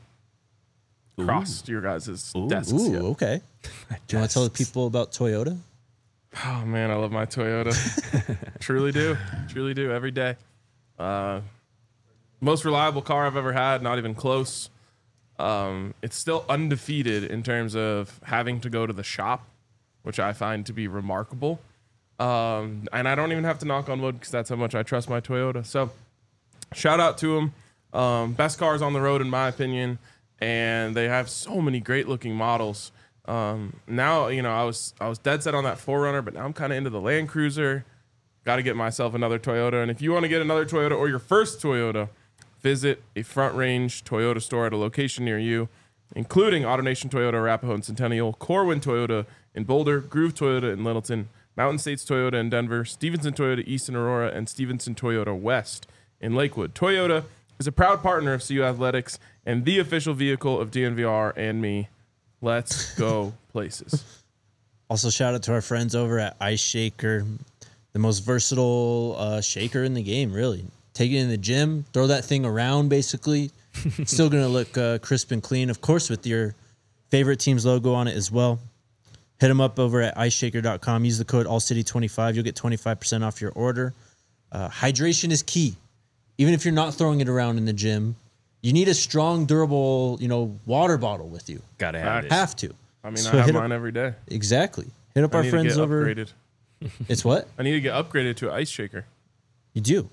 crossed your guys' Ooh. desks Ooh, yet. okay. Do you want to tell the people about Toyota? Oh man, I love my Toyota. Truly do. Truly do every day. Uh, most reliable car I've ever had, not even close. Um, it's still undefeated in terms of having to go to the shop, which I find to be remarkable. Um, and I don't even have to knock on wood because that's how much I trust my Toyota. So shout out to them. Um, best cars on the road, in my opinion. And they have so many great looking models. Um, now, you know, I was I was dead set on that four runner, but now I'm kind of into the Land Cruiser. Got to get myself another Toyota. And if you want to get another Toyota or your first Toyota, visit a Front Range Toyota store at a location near you, including AutoNation Toyota, Arapahoe and Centennial, Corwin Toyota in Boulder, Groove Toyota in Littleton, Mountain States Toyota in Denver, Stevenson Toyota East in Aurora, and Stevenson Toyota West in Lakewood. Toyota is a proud partner of C U Athletics and the official vehicle of D N V R and me. Let's go places. Also, shout out to our friends over at Ice Shaker, the most versatile uh, shaker in the game, really. Take it in the gym, throw that thing around, basically. It's still going to look uh, crisp and clean, of course, with your favorite team's logo on it as well. Hit them up over at ice shaker dot com. Use the code all city twenty-five. You'll get twenty-five percent off your order. Uh, hydration is key. Even if you're not throwing it around in the gym, you need a strong, durable, you know, water bottle with you. Gotta have it. Have to. I mean, So I have hit up- mine every day. Exactly. Hit up I our need friends to get over. upgraded. It's what? I need to get upgraded to an ice shaker. You do.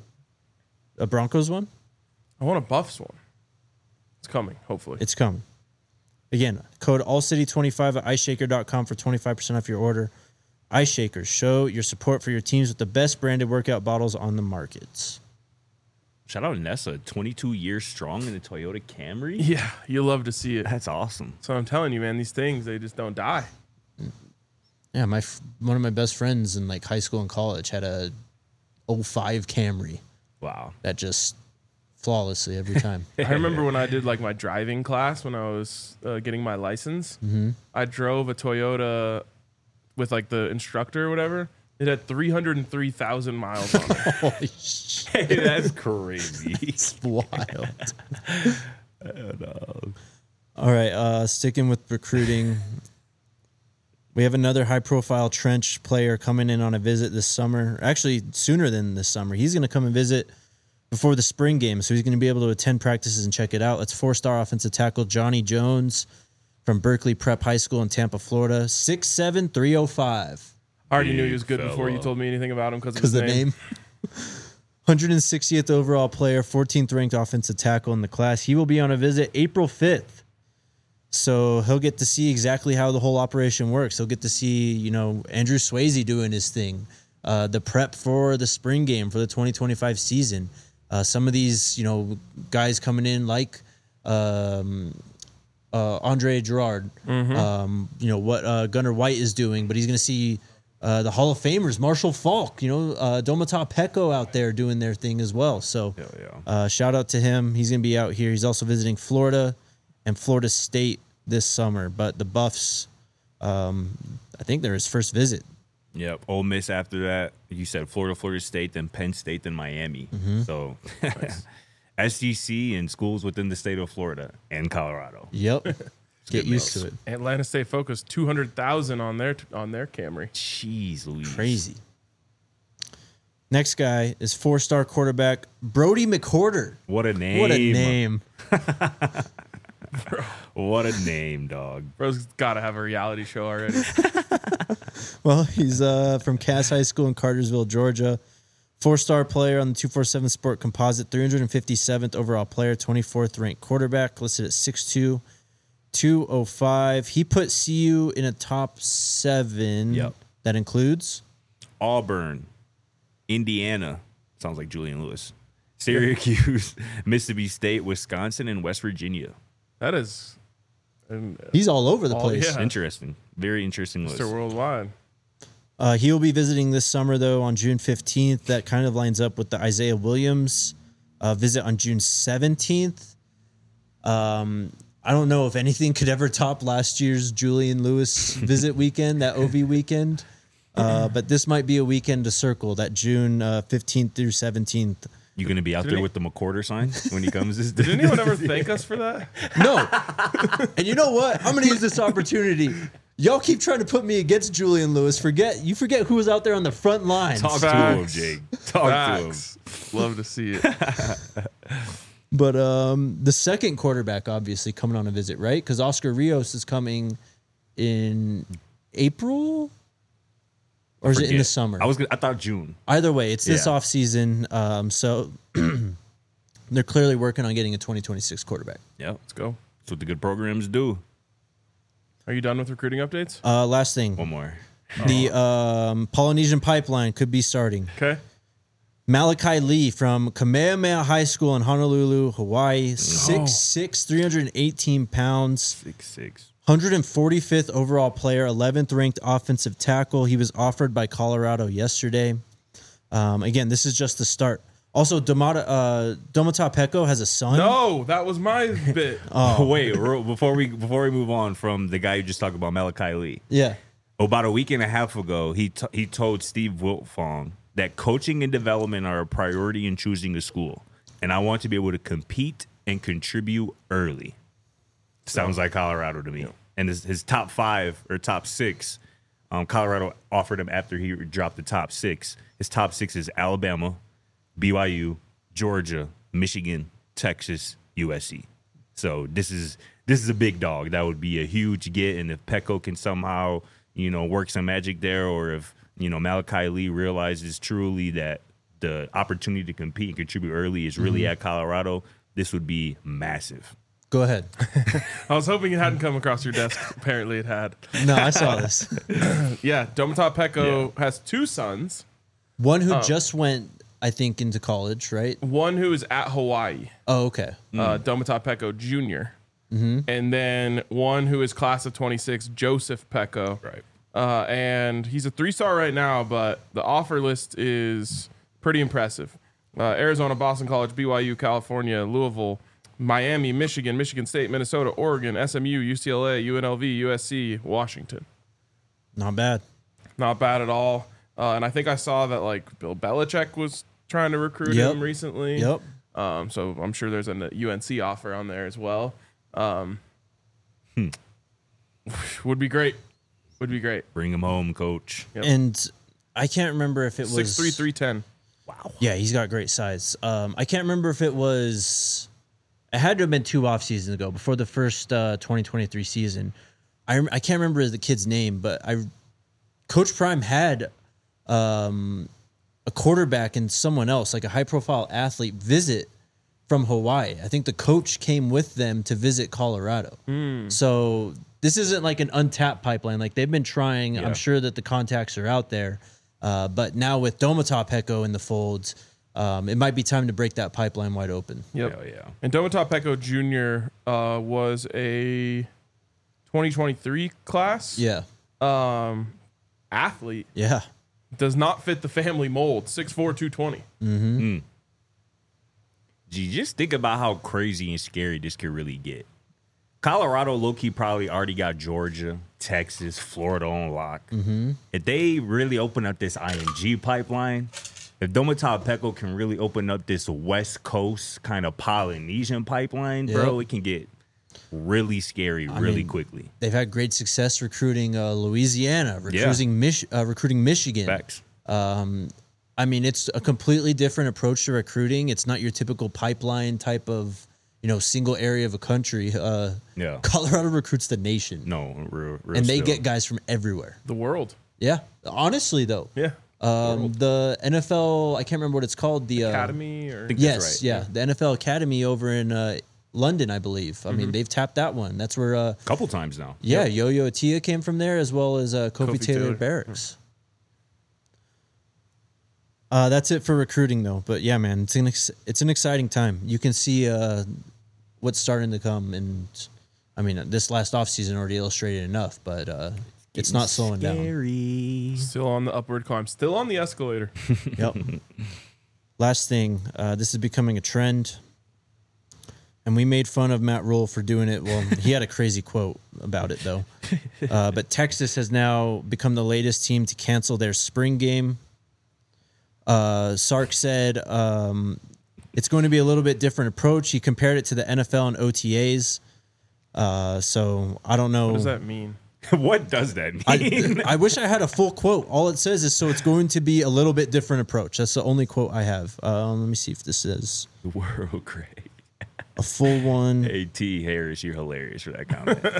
A Broncos one? I want a Buffs one. It's coming, hopefully. It's coming. Again, code all city twenty-five at ice shaker dot com for twenty-five percent off your order. Ice Shakers, show your support for your teams with the best branded workout bottles on the markets. Shout out to Nessa, twenty-two years strong in the Toyota Camry. Yeah, you love to see it. That's awesome. So I'm telling you, man, these things, they just don't die. Yeah, my f- one of my best friends in like high school and college had a oh five Camry Wow. that just flawlessly every time. I remember when I did like my driving class when I was uh, getting my license. Mm-hmm. I drove a Toyota with like the instructor or whatever. It had three hundred three thousand miles on it. Holy shit, Hey, that's crazy. it's wild. All right, uh, sticking with recruiting. We have another high-profile trench player coming in on a visit this summer. Actually, sooner than this summer. He's going to come and visit before the spring game, so he's going to be able to attend practices and check it out. It's four-star offensive tackle Johnny Jones from Berkeley Prep High School in Tampa, Florida. six seven, three oh five. I already knew Big he was good before you fella. told me anything about him because of Because his the name. name. one hundred sixtieth overall player, fourteenth ranked offensive tackle in the class. He will be on a visit April fifth. So he'll get to see exactly how the whole operation works. He'll get to see, you know, Andrew Swayze doing his thing, uh, the prep for the spring game for the twenty twenty-five season. Uh, some of these, you know, guys coming in like um, uh, Andre Gerard, um, you know, what uh, Gunnar White is doing, but he's going to see uh, the Hall of Famers, Marshall Falk, you know, uh, Domata Peko out there doing their thing as well. So Hell yeah. uh, shout out to him. He's going to be out here. He's also visiting Florida and Florida State this summer, but the Buffs, um, I think they're his first visit. Yep. Ole Miss after that. You said Florida, Florida State, then Penn State, then Miami. Mm-hmm. So S E C and schools within the state of Florida and Colorado. Yep. Get good used meals. to it. Atlanta State Focus two hundred thousand on their on their Camry. Jeez Louise. Crazy. Next guy is four-star quarterback Brody McCorder. What a name. What a name. What a name, dog. Bro's got to have a reality show already. Well, he's uh, from Cass High School in Cartersville, Georgia. Four-star player on the two forty-seven Sport Composite, three hundred fifty-seventh overall player, twenty-fourth ranked quarterback, listed at six two, two oh five. He put C U in a top seven. Yep. That includes Auburn, Indiana. Sounds like Julian Lewis. Syracuse, Mississippi State, Wisconsin, and West Virginia. That is and, uh, he's all over the all- place. yeah. Interesting. Very interesting list. Mister Worldwide. Uh, he will be visiting this summer, though, on June fifteenth. That kind of lines up with the Isaiah Williams uh, visit on June seventeenth. Um, I don't know if anything could ever top last year's Julian Lewis visit weekend, that O V weekend. Uh, but this might be a weekend to circle, that June uh, fifteenth through seventeenth. You going to be out Didn't there he- with the McQuarter sign when he comes? This Did anyone ever thank us for that? No. And you know what? I'm going to use this opportunity. Y'all keep trying to put me against Julian Lewis. Forget You forget who was out there on the front lines. Talk Facts. to him, Jake. Talk Facts. Love to see it. But um, the second quarterback, obviously, coming on a visit, right? Because Oscar Rios is coming in April? Or is to it him. in the Forget. summer? I was. Gonna, I thought June. Either way, it's this Yeah. offseason. Um, so they're clearly working on getting a twenty twenty-six quarterback. Yep. Let's go. That's what the good programs do. Are you done with recruiting updates? Uh, last thing, One more. the um, Polynesian pipeline could be starting. Okay. Malachi Lee from Kamehameha High School in Honolulu, Hawaii, six six, three hundred eighteen pounds, Six six. one hundred forty-fifth overall player, eleventh ranked offensive tackle. He was offered by Colorado yesterday. Um, again, this is just the start. Also, Domata, uh, Domata Peko has a son. No, that was my bit. Oh wait, real- before we before we move on from the guy you just talked about, Malachi Lee. Yeah. About a week and a half ago, he t- he told Steve Wiltfong that coaching and development are a priority in choosing a school, and I want to be able to compete and contribute early. Sounds like Colorado to me. Yeah. And his, his top five or top six, um, Colorado offered him after he dropped the top six. His top six is Alabama, B Y U, Georgia, Michigan, Texas, U S C. So this is this is a big dog. That would be a huge get. And if Peko can somehow, you know, work some magic there, or if, you know, Malachi Lee realizes truly that the opportunity to compete and contribute early is really at Colorado, this would be massive. Go ahead. I was hoping it hadn't come across your desk. Apparently it had. No, I saw this. Yeah, Domata Peko has two sons. One who just went, I think, into college, right? One who is at Hawaii, Oh, okay. uh, Domata Peko Junior And then one who is class of twenty-six, Joseph Peko. Right. Uh, and he's a three-star right now, but the offer list is pretty impressive. Uh, Arizona, Boston College, B Y U, California, Louisville, Miami, Michigan, Michigan State, Minnesota, Oregon, S M U, U C L A, U N L V, U S C, Washington. Not bad. Not bad at all. Uh, and I think I saw that like Bill Belichick was trying to recruit Yep. him recently. Yep. Um, so I'm sure there's a U N C offer on there as well. Um, Would be great. Would be great. Bring him home, coach. Yep. And I can't remember if it was Six three three ten. Wow. Yeah, he's got great size. Um, I can't remember if it was. It had to have been two off seasons ago, before the first uh, twenty twenty-three season. I rem- I can't remember the kid's name, but I, Coach Prime had um, a quarterback and someone else, like a high profile athlete, visit from Hawaii. I think the coach came with them to visit Colorado. So this isn't like an untapped pipeline. Like they've been trying. Yeah. I'm sure that the contacts are out there. Uh, but now with Domata Peko in the folds, um, it might be time to break that pipeline wide open. Yep. Hell yeah. And Domata Peko Junior Uh, was a twenty twenty-three class. Yeah. Um, athlete. Yeah. Does not fit the family mold. six four, two twenty. Gee, just think about how crazy and scary this could really get. Colorado, low-key, probably already got Georgia, Texas, Florida on lock. If they really open up this I M G pipeline, if Domata Peko can really open up this West Coast kind of Polynesian pipeline, bro, Yep. it can get really scary really mean, quickly. They've had great success recruiting uh, Louisiana, recruiting Mich- uh, recruiting Michigan. Facts. Um, I mean, it's a completely different approach to recruiting. It's not your typical pipeline type of, you know, single area of a country. Uh, Yeah. Colorado recruits the nation, No, real, real and they still. get guys from everywhere. The world. Yeah, honestly though. Yeah. Um, the N F L, I can't remember what it's called. The uh, Academy or think- Yes, That's right, yeah, yeah. the N F L Academy over in uh, London, I believe. I mean, they've tapped that one. That's where, uh, A couple times now. yeah, Yo-Yo Atia came from there, as well as uh, Kofi, Kofi Taylor, Taylor. Barracks. Uh, that's it for recruiting, though. But yeah, man, it's an ex- it's an exciting time. You can see uh, what's starting to come, and I mean, this last offseason already illustrated enough, but uh, it's not slowing down. Scary. still on the upward climb, still on the escalator. Yep. Last thing, uh, this is becoming a trend, and we made fun of Matt Rule for doing it. Well, he had a crazy quote about it, though. Uh, but Texas has now become the latest team to cancel their spring game. Uh, Sark said um, it's going to be a little bit different approach. He compared it to the N F L and O T As. Uh, so I don't know. What does that mean? What does that mean? I, I wish I had a full quote. All it says is, so it's going to be a little bit different approach. That's the only quote I have. Um, let me see if this is World great. a full one. Hey, T. Harris, you're hilarious for that comment.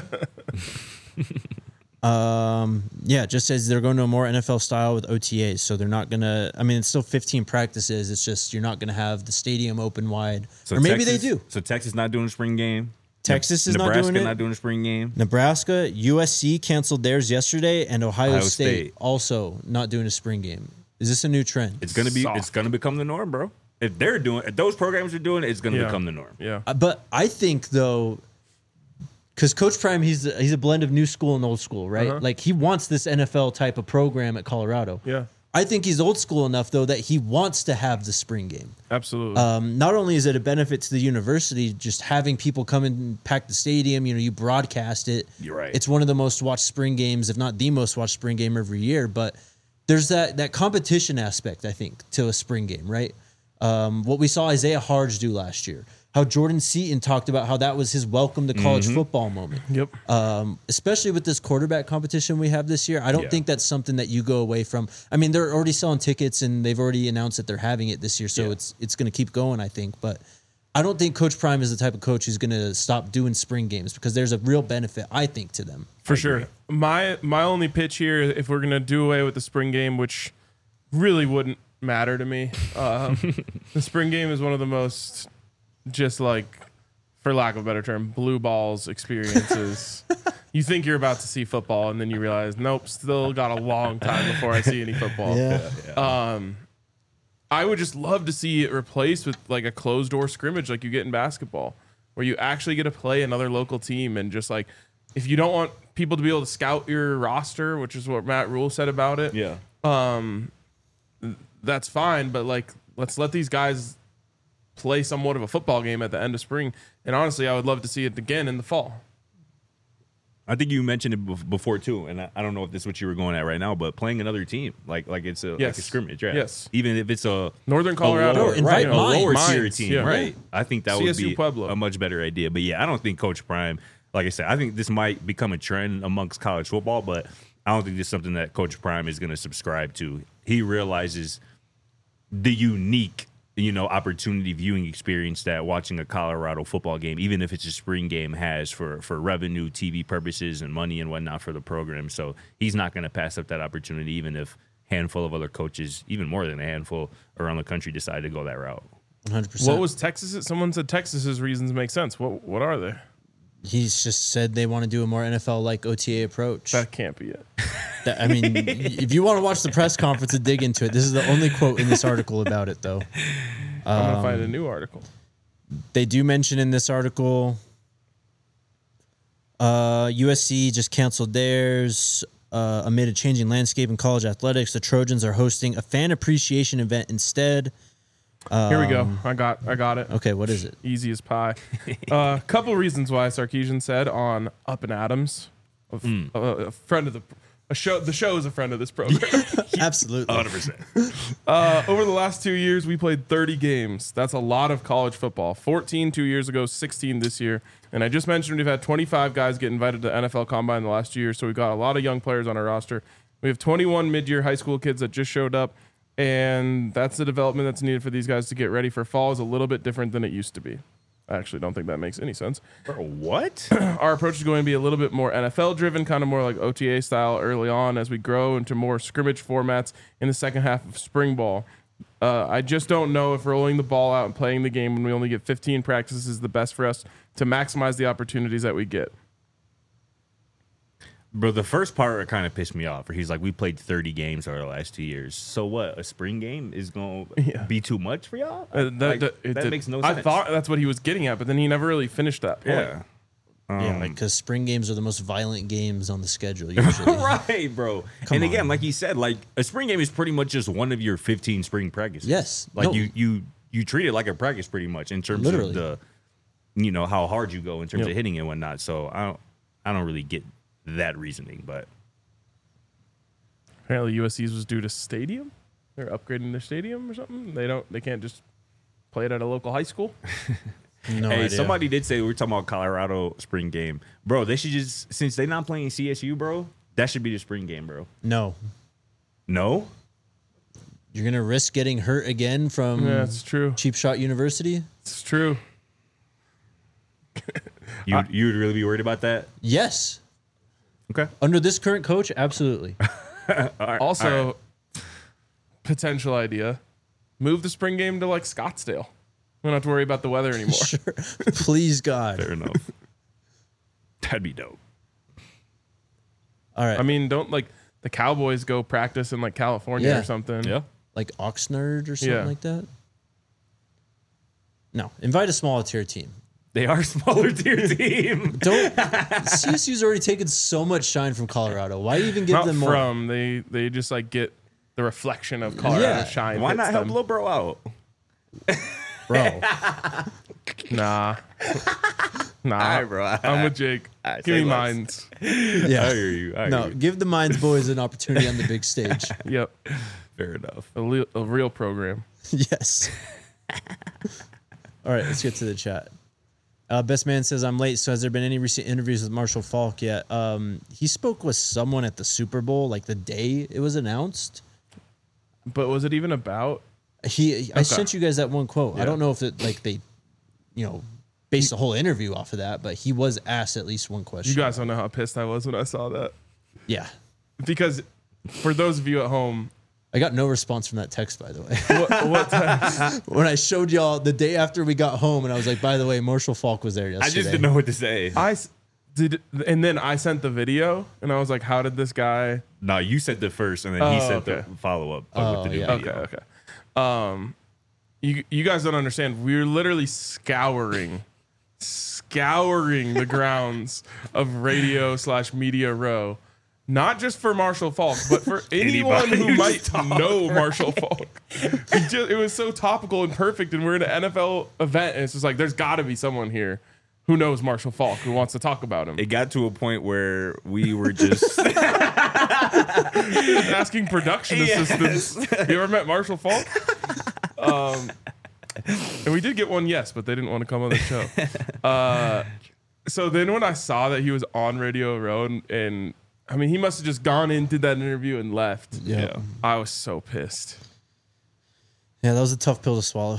Um, yeah, it just says they're going to a more N F L style with O T As. So they're not going to, I mean, it's still fifteen practices. It's just you're not going to have the stadium open wide. So or maybe Texas- they do. So Texas not doing a spring game. Texas is not Nebraska doing it. not doing a spring game. Nebraska, U S C canceled theirs yesterday, and Ohio, Ohio State, State. also not doing a spring game. Is this a new trend? It's gonna be. Soft. It's gonna become the norm, bro. If they're doing, if those programs are doing it, it's gonna Yeah. become the norm. Yeah. Uh, but I think though, because Coach Prime, he's he's a blend of new school and old school, right? Uh-huh. Like he wants this N F L type of program at Colorado. Yeah. I think he's old school enough though that he wants to have the spring game. Absolutely. Um, not only is it a benefit to the university, just having people come and pack the stadium, you know, you broadcast it. You're right. It's one of the most watched spring games, if not the most watched spring game every year. But there's that that competition aspect, I think, to a spring game, right? Um, what we saw Isaiah Harge do last year, how Jordan Seaton talked about how that was his welcome to college Mm-hmm. football moment. yep. Um, especially with this quarterback competition we have this year, I don't Yeah. think that's something that you go away from. I mean, they're already selling tickets and they've already announced that they're having it this year, so Yeah. it's it's going to keep going, I think. But I don't think Coach Prime is the type of coach who's going to stop doing spring games because there's a real benefit, I think, to them. For sure. My my only pitch here, if we're gonna do away with the spring game, which really wouldn't matter to me, um, the spring game is one of the most, just like, for lack of a better term, blue balls experiences. You think you're about to see football, and then you realize, nope, still got a long time before I see any football. Um, I would just love to see it replaced with like a closed door scrimmage like you get in basketball, where you actually get to play another local team and just like, if you don't want people to be able to scout your roster, which is what Matt Rule said about it, Yeah. that's fine. But like, let's let these guys play somewhat of a football game at the end of spring. And honestly, I would love to see it again in the fall. I think you mentioned it bef- before too, and I, I don't know if this is what you were going at right now, but playing another team, like like it's a like Yes. a scrimmage, right? Yes. Even if it's a Northern a Colorado, lower, No, invite right, a mine. lower tier Mines, team, yeah. right? I think that C would S U be Pueblo. a much better idea. But yeah, I don't think Coach Prime, like I said, I think this might become a trend amongst college football, but I don't think this is something that Coach Prime is going to subscribe to. He realizes the unique, you know, opportunity viewing experience that watching a Colorado football game, even if it's a spring game, has for for revenue, T V purposes, and money and whatnot for the program. So he's not going to pass up that opportunity, even if a handful of other coaches, even more than a handful around the country, decide to go that route. one hundred percent. What was Texas? Someone said Texas's reasons make sense. What what are they? He's just said they want to do a more N F L-like O T A approach. That can't be it. That- I mean, if you want to watch the press conference and dig into it, this is the only quote in this article about it, though. I'm gonna find a new article. They do mention in this article uh, U S C just canceled theirs uh, amid a changing landscape in college athletics. The Trojans are hosting a fan appreciation event instead. Here we go. I got I got it. Okay, what is it? Easy as pie. A uh, couple reasons why Sarkeesian said on Up and Adams, a, f- a, a friend of the a show. The show is a friend of this program. Absolutely. one hundred percent. Uh, over the last two years, we played thirty games. That's a lot of college football. fourteen two years ago, sixteen this year. And I just mentioned we've had twenty-five guys get invited to N F L Combine in the last two years, so we've got a lot of young players on our roster. We have twenty-one mid-year high school kids that just showed up, and that's the development that's needed for these guys to get ready for fall is a little bit different than it used to be. I actually don't think that makes any sense. Bro, what? Our approach is going to be a little bit more N F L driven, kind of more like O T A style early on as we grow into more scrimmage formats in the second half of spring ball. Uh, I just don't know if rolling the ball out and playing the game when we only get fifteen practices is the best for us to maximize the opportunities that we get. Bro, the first part kind of pissed me off. Where he's like, we played thirty games over the last two years. So what? A spring game is going to Yeah. be too much for y'all? Uh, that Like, that, it that did- makes no I sense. thought that's what he was getting at, but then he never really finished that point. Yeah. yeah, like because spring games are the most violent games on the schedule usually. Right, bro. Come and again, on. like you said, like a spring game is pretty much just one of your fifteen spring practices. Yes. Like No. you you you treat it like a practice pretty much in terms Literally. of the you know how hard you go in terms Yep. of hitting and whatnot. So I don't I don't really get that reasoning, but Apparently, U S C's was due to stadium. They're upgrading their stadium or something. They don't. They can't just play it at a local high school. No hey, idea. somebody did say we were talking about Colorado spring game, bro. They should just since they're not playing C S U, bro. That should be the spring game, bro. No, No, you're gonna risk getting hurt again from Yeah, it's true. Cheap Shot University. It's true. you you would really be worried about that? Yes, Okay. under this current coach, absolutely. Also, potential idea: move the spring game to like Scottsdale. We don't have to worry about the weather anymore. Sure. Please, God. Fair enough. That'd be dope. All right. I mean, don't like the Cowboys go practice in like California Yeah. or something. Yeah. like Oxnard or something Yeah. like that. No, invite a smaller tier team. They are a smaller tier team. Don't. C S U's already taken so much shine from Colorado. Why even give Not them more? from they they just like get the reflection of Colorado Yeah. shine. Why hits not help them. Lil Bro out? Bro, Nah, nah. All right, bro. I'm with Jake. right, Give say me less. mines. I yeah. hear you. I hear No, you. give the Mines boys an opportunity on the big stage. Yep, Fair enough. a, le- a real program. Yes. All right, let's get to the chat. Uh, Best Man says, I'm late, so has there been any recent interviews with Marshall Falk yet? Um, he spoke with someone at the Super Bowl, like the day it was announced. But was it even about? He, I sent you guys that one quote. I Yeah. don't know if it, like, they, you know, based the whole interview off of that, but he was asked at least one question. You guys don't know how pissed I was when I saw that. Yeah. Because for those of you at home, I got no response from that text, by the way. what, what time, When I showed y'all the day after we got home, and I was like, by the way, Marshall Falk was there yesterday. I just didn't know what to say. I s- did, and then I sent the video, and I was like, "How did this guy?" No, you said the first, and then he Oh, said okay. the follow up Oh, with the new yeah. video. Okay, okay. Um, you you guys don't understand. We were literally scouring, scouring the grounds of Radio slash Media Row, not just for Marshall Falk, but for anyone Anybody who who's might talking. know Marshall Falk. It, just, it was so topical and perfect, and we're in an N F L event, and it's just like there's got to be someone here who knows Marshall Falk who wants to talk about him. It got to a point where we were just Asking production assistants. You ever met Marshall Falk? Um, and we did get one yes, but they didn't want to come on the show. Uh, so then when I saw that he was on Radio Row, and, and I mean, he must have just gone in, did that interview, and left. Yeah. I was so pissed. Yeah, that was a tough pill to swallow.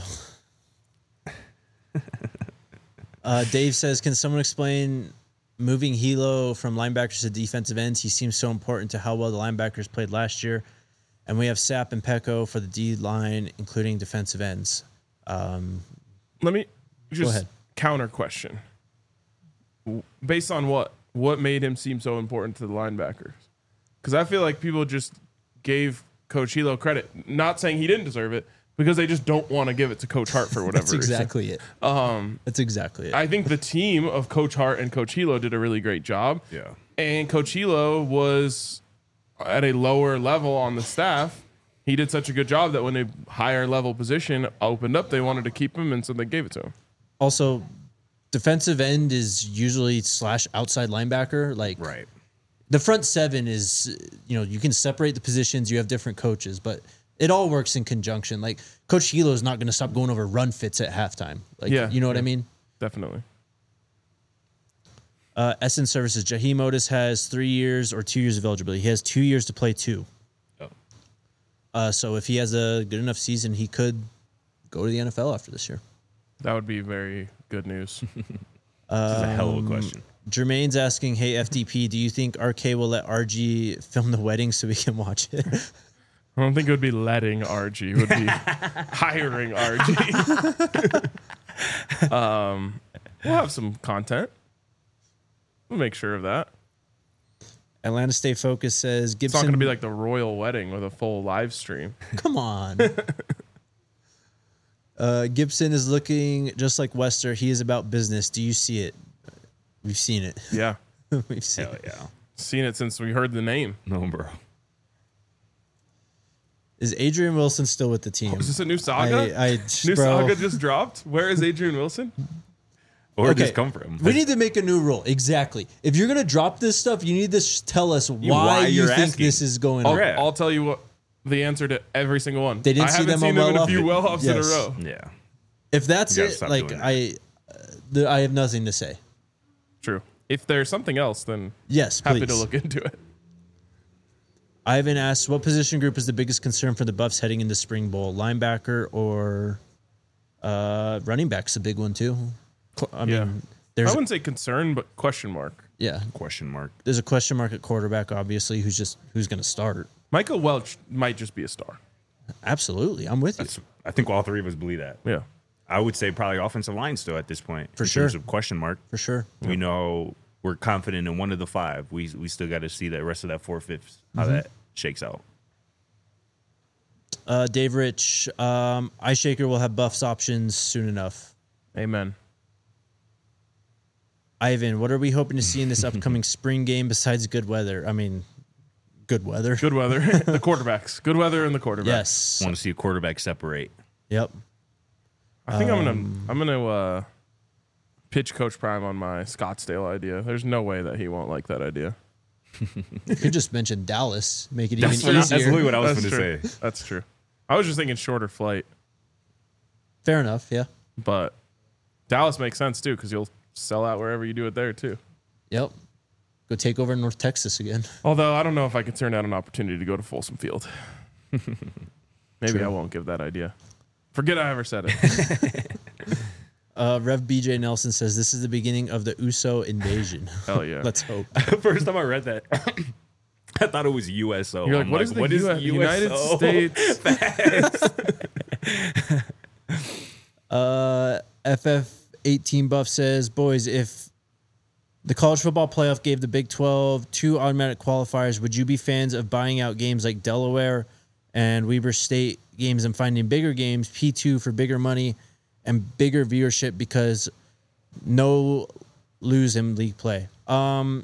uh, Dave says, can someone explain moving Hilo from linebackers to defensive ends? He seems so important to how well the linebackers played last year. And we have Sapp and Pecco for the D line, including defensive ends. Um, Let me just ahead. counter question. Based on what? What made him seem so important to the linebackers? Because I feel like people just gave Coach Hilo credit, not saying he didn't deserve it, because they just don't want to give it to Coach Hart for whatever that's reason. exactly it. Um, that's exactly it. I think the team of Coach Hart and Coach Hilo did a really great job. Yeah. And Coach Hilo was at a lower level on the staff. He did such a good job that when a higher level position opened up, they wanted to keep him, and so they gave it to him. Also, defensive end is usually slash outside linebacker. Like right. the front seven is, you know, you can separate the positions. You have different coaches, but it all works in conjunction. Like Coach Hilo is not going to stop going over run fits at halftime. Like, Yeah, you know what yeah. I mean? Definitely. Uh, S N Services, Jaheim Otis has three years or two years of eligibility. He has two years to play two. Oh. Uh, so if he has a good enough season, he could go to the N F L after this year. That would be very good news. This is a hell of a question. Jermaine's asking, hey, F D P, do you think R K will let R G film the wedding so we can watch it? I don't think it would be letting R G. It would be hiring R G. um, we'll have some content. We'll make sure of that. Atlanta State Focus says, It's Gibson. not going to be like the royal wedding with a full live stream. Come on. uh, Gibson is looking just like Wester. He is about business. Do you see it? We've seen it. Yeah. We've seen Hell it. yeah. Seen it since we heard the name. No, bro. Is Adrian Wilson still with the team? Is this a new saga? I, I, new bro, saga just dropped? Where is Adrian Wilson? Or Okay. just come from. We need to make a new rule. Exactly. If you're going to drop this stuff, you need to sh- tell us why, why you you're think asking. this is going I'll, on. Yeah. I'll tell you what the answer to every single one. They didn't I see haven't them seen on them in a well few off. well offs in a Yes. row. Yeah. If that's You gotta it, stop like doing I, uh, the, I have nothing to say. True. If there's something else, then Yes, happy please. to look into it. Ivan asks, what position group is the biggest concern for the Buffs heading into Spring Bowl? Linebacker or uh, running back's a big one too. Qu- I mean, Yeah. I there's wouldn't say concern, but question mark. yeah, Question mark. there's a question mark at quarterback. Obviously, who's just who's going to start? Michael Welch might just be a star. Absolutely, I'm with you That's, I think all three of us believe that. Yeah. I would say probably offensive line still at this point. For in sure. terms of question mark. for sure. We know we're confident in one of the five. We we still got to see the rest of that four fifths how that shakes out. Uh, Dave Rich, um, Ice Shaker will have Buffs options soon enough. Amen. Ivan, what are we hoping to see in this upcoming spring game besides good weather? I mean, good weather. Good weather. The quarterbacks. Good weather and the quarterbacks. Yes. Want to see a quarterback separate. Yep. I think I'm gonna I'm gonna uh, pitch Coach Prime on my Scottsdale idea. There's no way that he won't like that idea. You could just mention Dallas, make it That's, even what, easier. that's literally what I was That's going true. to say. That's true. I was just thinking shorter flight, Fair enough. Yeah. but Dallas makes sense too because you'll sell out wherever you do it there too. Yep. Go take over North Texas again. Although I don't know if I could turn down an opportunity to go to Folsom Field. Maybe True. I won't give that idea. Forget I ever said it. Uh, Rev B J Nelson says this is the beginning of the U S O invasion. Hell yeah. Let's hope. First time I read that, I thought it was U S O. You're like, I'm what is the U S United U S O? States? Uh, F F eighteen Buff says, boys, if the college football playoff gave the Big twelve two automatic qualifiers, would you be fans of buying out games like Delaware and Weber State games and finding bigger games, P two for bigger money and bigger viewership because no lose in league play? Um,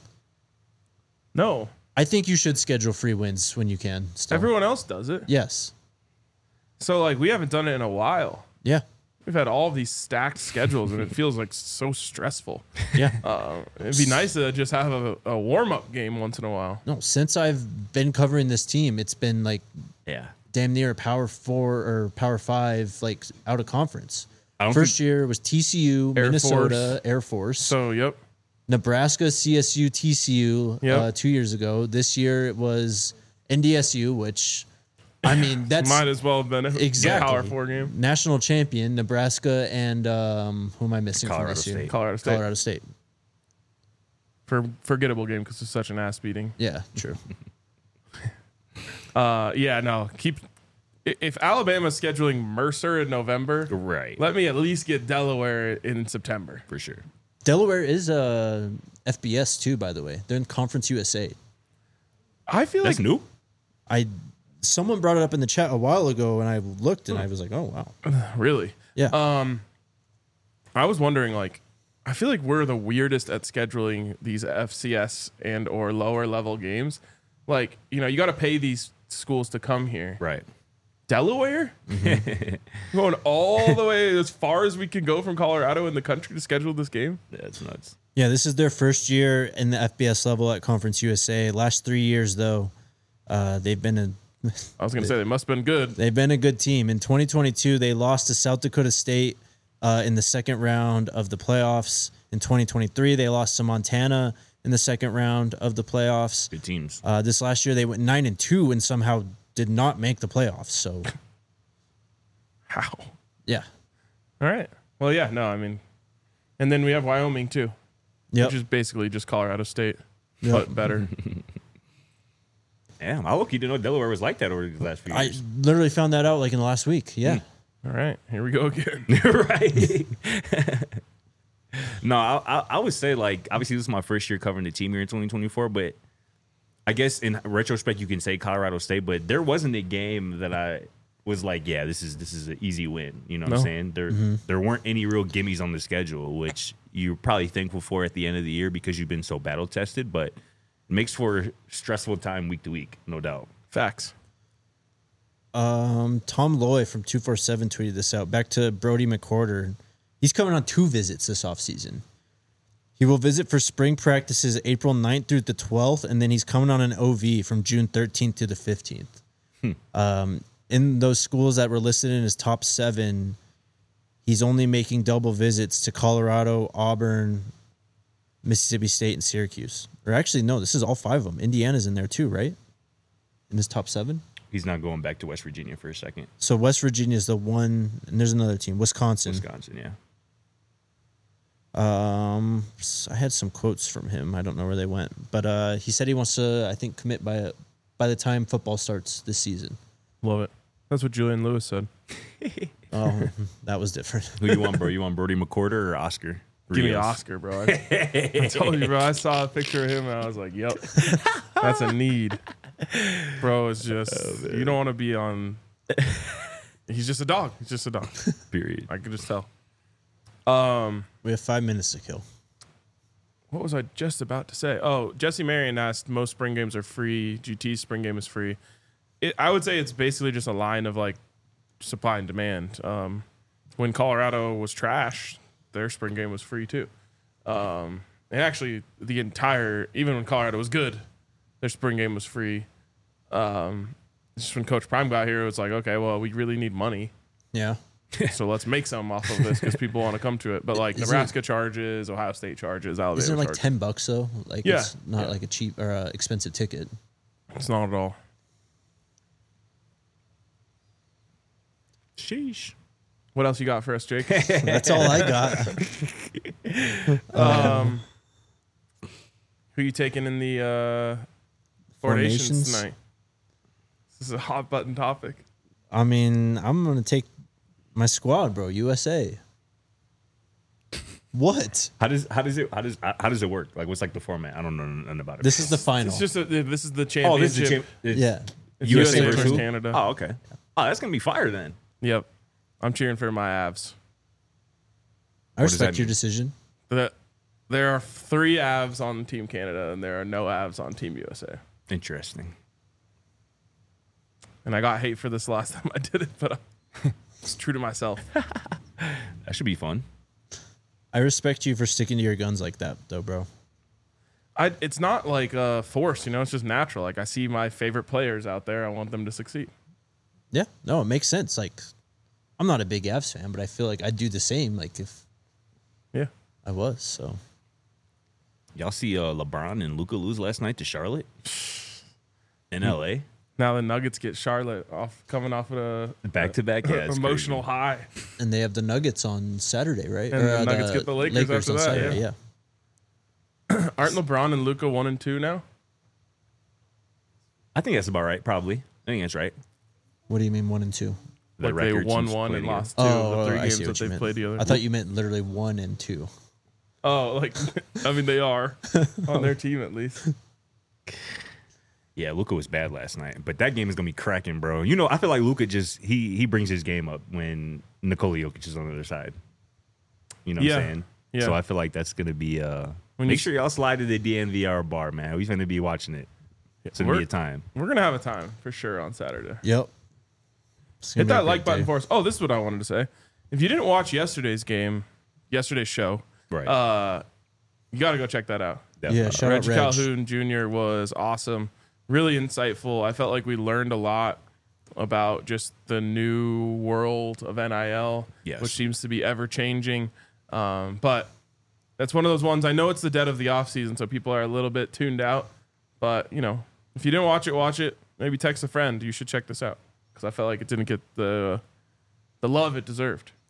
No. I think you should schedule free wins when you can. Still. Everyone else does it. Yes. So like we haven't done it in a while. Yeah. We've had all of these stacked schedules and it feels like so stressful. Yeah. Uh, it'd be nice to just have a, a warm up game once in a while. No, since I've been covering this team, it's been like Yeah. damn near a power four or power five, like out of conference. I don't First year was T C U, Air Minnesota, Air Force, So yep. Nebraska, C S U, T C U Yep. uh, two years ago. This year it was N D S U, which, I mean, that's Might as well have been a exactly power four game. national champion, Nebraska, and um, who am I missing Colorado from this year? State. Colorado State. Colorado State. For forgettable game because it's such an ass beating. Yeah, true. Uh, yeah, no. Keep i- if Alabama's scheduling Mercer in November, Right. let me at least get Delaware in September. For sure. Delaware is uh, F B S too, by the way. They're in Conference U S A. I feel That's like new. I someone brought it up in the chat a while ago, and I looked and I was like, oh wow, really. yeah. Um, I was wondering, like, I feel like we're the weirdest at scheduling these F C S and or lower level games. Like, you know, you got to pay these schools to come here. Right. Delaware, going all the way as far as we can go from Colorado in the country to schedule this game. That's nuts. Yeah, this is their first year in the F B S level at Conference U S A. Last three years, though, uh, they've been a I was gonna say they must have been good. they've been a good team. In twenty twenty-two, they lost to South Dakota State uh, in the second round of the playoffs. In twenty twenty-three, they lost to Montana in the second round of the playoffs. Good teams. Uh, this last year, they went nine and two and somehow did not make the playoffs. So, How? yeah, All right. Well, yeah, no, I mean, and then we have Wyoming too, Yep. which is basically just Colorado State, Yep. but better. Damn, I look, you didn't know Delaware was like that over the last few I years. literally found that out like in the last week. Yeah. All right, here we go again. Right. No, I, I I would say like obviously this is my first year covering the team here in twenty twenty-four, but I guess in retrospect you can say Colorado State, but there wasn't a game that I was like, yeah, this is this is an easy win. You know what No. I'm saying? There there weren't any real gimmies on the schedule, which you're probably thankful for at the end of the year because you've been so battle tested, but it makes for a stressful time week to week, no doubt. Facts. Um, Tom Loy from two forty-seven tweeted this out. Back to Brody McCorder. He's coming on two visits this offseason. He will visit for spring practices April ninth through the twelfth, and then he's coming on an O V from June thirteenth to the fifteenth. Hmm. Um, in those schools that were listed in his top seven, he's only making double visits to Colorado, Auburn, Mississippi State, and Syracuse. Or actually, no, this is all five of them. Indiana's in there too, right? In his top seven? He's not going back to West Virginia for a second. So West Virginia is the one, and there's another team, Wisconsin. Wisconsin, yeah. Um, s- I had some quotes from him. I don't know where they went, but uh, he said he wants to, I think, commit by by the time football starts this season. Love it. That's what Julian Lewis said. Oh, that was different. Who you want, bro? You want Brody McCorder or Oscar? Give me Rios? Oscar, bro. I, I told you, bro. I saw a picture of him and I was like, "Yep, that's a need." Bro, it's just you don't want to be on. He's just a dog. He's just a dog. Period. I could just tell. Um, We have five minutes to kill. what was I just about to say? Oh, Jesse Marion asked, most spring games are free. G T's spring game is free. It, I would say it's basically just a line of like supply and demand. Um, when Colorado was trash, their spring game was free too. Um, and actually, the entire, even when Colorado was good, their spring game was free. Um, just when Coach Prime got here, it was like, okay, well, we really need money. Yeah. So let's make some off of this because people want to come to it. But like Isn't- Nebraska charges, Ohio State charges, Alabama Isn't it like charges. ten bucks though? Like Yeah. it's not Yeah. like a cheap or uh, expensive ticket. It's not at all. Sheesh. What else you got for us, Jake? That's all I got. um, who you taking in the uh, formations Formations? tonight? This is a hot button topic. I mean, I'm gonna take my squad, bro. U S A. What? How does how does it how does how does it work? Like what's like the format? I don't know nothing about it. This is the final. It's just a, this is the oh, this is championship. the champ- it's yeah. It's U S A U S A versus versus who? Canada. Oh, okay. Oh, that's gonna be fire then. Yep, I'm cheering for my Avs. I What does that respect your mean? decision. The, there are three Avs on Team Canada, and there are no Avs on Team U S A. Interesting. And I got hate for this last time I did it, but I'm it's true to myself. That should be fun. I respect you for sticking to your guns like that, though, bro. I, it's not like uh, forced, you know. It's just natural. Like I see my favorite players out there. I want them to succeed. Yeah, no, it makes sense. Like, I'm not a big Avs fan, but I feel like I'd do the same. Like if Yeah. I was, so Y'all see uh, LeBron and Luka lose last night to Charlotte in L A Now the Nuggets get Charlotte off coming off of a back to back. Yeah, it's emotional crazy. high. and they have the Nuggets on Saturday, right? And the uh, Nuggets get the Lakers after on that, Saturday, yeah. yeah. Aren't LeBron and Luca one and two now? I think that's about right. Probably. I think that's right. What do you mean one and two? The Like they record won since one playing and together. lost two Oh, of the three I games see that what you they've meant. played together. I thought you meant literally one and two. Oh, like I mean they are on their team at least. Yeah, Luka was bad last night, but that game is gonna be cracking, bro. You know, I feel like Luka just he he brings his game up when Nikola Jokic is on the other side. You know Yeah. what I'm saying? Yeah. So I feel like that's gonna be uh. When make you- sure y'all slide to the D N V R bar, man. We're gonna be watching it. It's gonna be We're, a time. we're gonna have a time for sure on Saturday. Yep. It's gonna Hit be a that great like button day. for us. Oh, this is what I wanted to say. If you didn't watch yesterday's game, yesterday's show, Right. uh, you got to go check that out. Yeah, shout Reg out Reg. Calhoun Junior was awesome, really insightful. I felt like we learned a lot about just the new world of N I L, Yes. which seems to be ever changing. Um, but that's one of those ones. I know it's the dead of the off season, so people are a little bit tuned out. But you know, if you didn't watch it, watch it. Maybe text a friend. You should check this out because I felt like it didn't get the the love it deserved.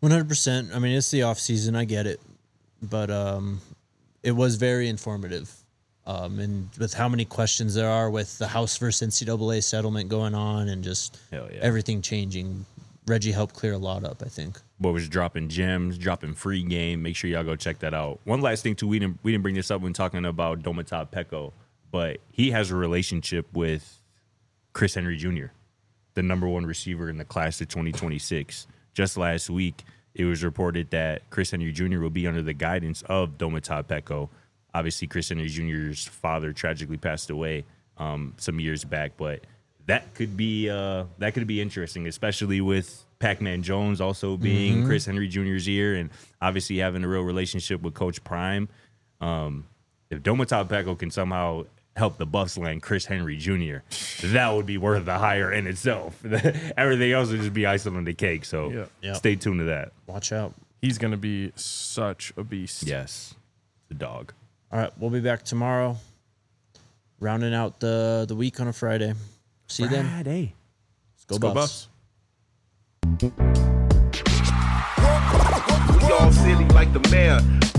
one hundred percent. I mean, it's the off season. I get it. But um, it was very informative. Um, and with how many questions there are with the House versus N C double A settlement going on and just Hell yeah. everything changing, Reggie helped clear a lot up, I think. Boy was dropping gems, dropping free game. Make sure y'all go check that out. One last thing, too. We didn't, we didn't bring this up when talking about Domata Peko, but he has a relationship with Chris Henry Junior, the number one receiver in the class of twenty twenty-six. Just last week, it was reported that Chris Henry Junior will be under the guidance of Domata Peko. Obviously, Chris Henry Junior's father tragically passed away um, some years back, but that could be uh, that could be interesting, especially with Pac-Man Jones also being mm-hmm. Chris Henry Junior's ear, and obviously having a real relationship with Coach Prime. Um, if Domata Peko can somehow help the Buffs land Chris Henry Junior, that would be worth the hire in itself. Everything else would just be icing on the cake. So yeah. Yep. Stay tuned to that. Watch out. He's going to be such a beast. Yes, the dog. All right, we'll be back tomorrow, rounding out the, the week on a Friday. See you then. Friday. Let's go, Let's Buffs. go Buffs. We all silly like the mayor.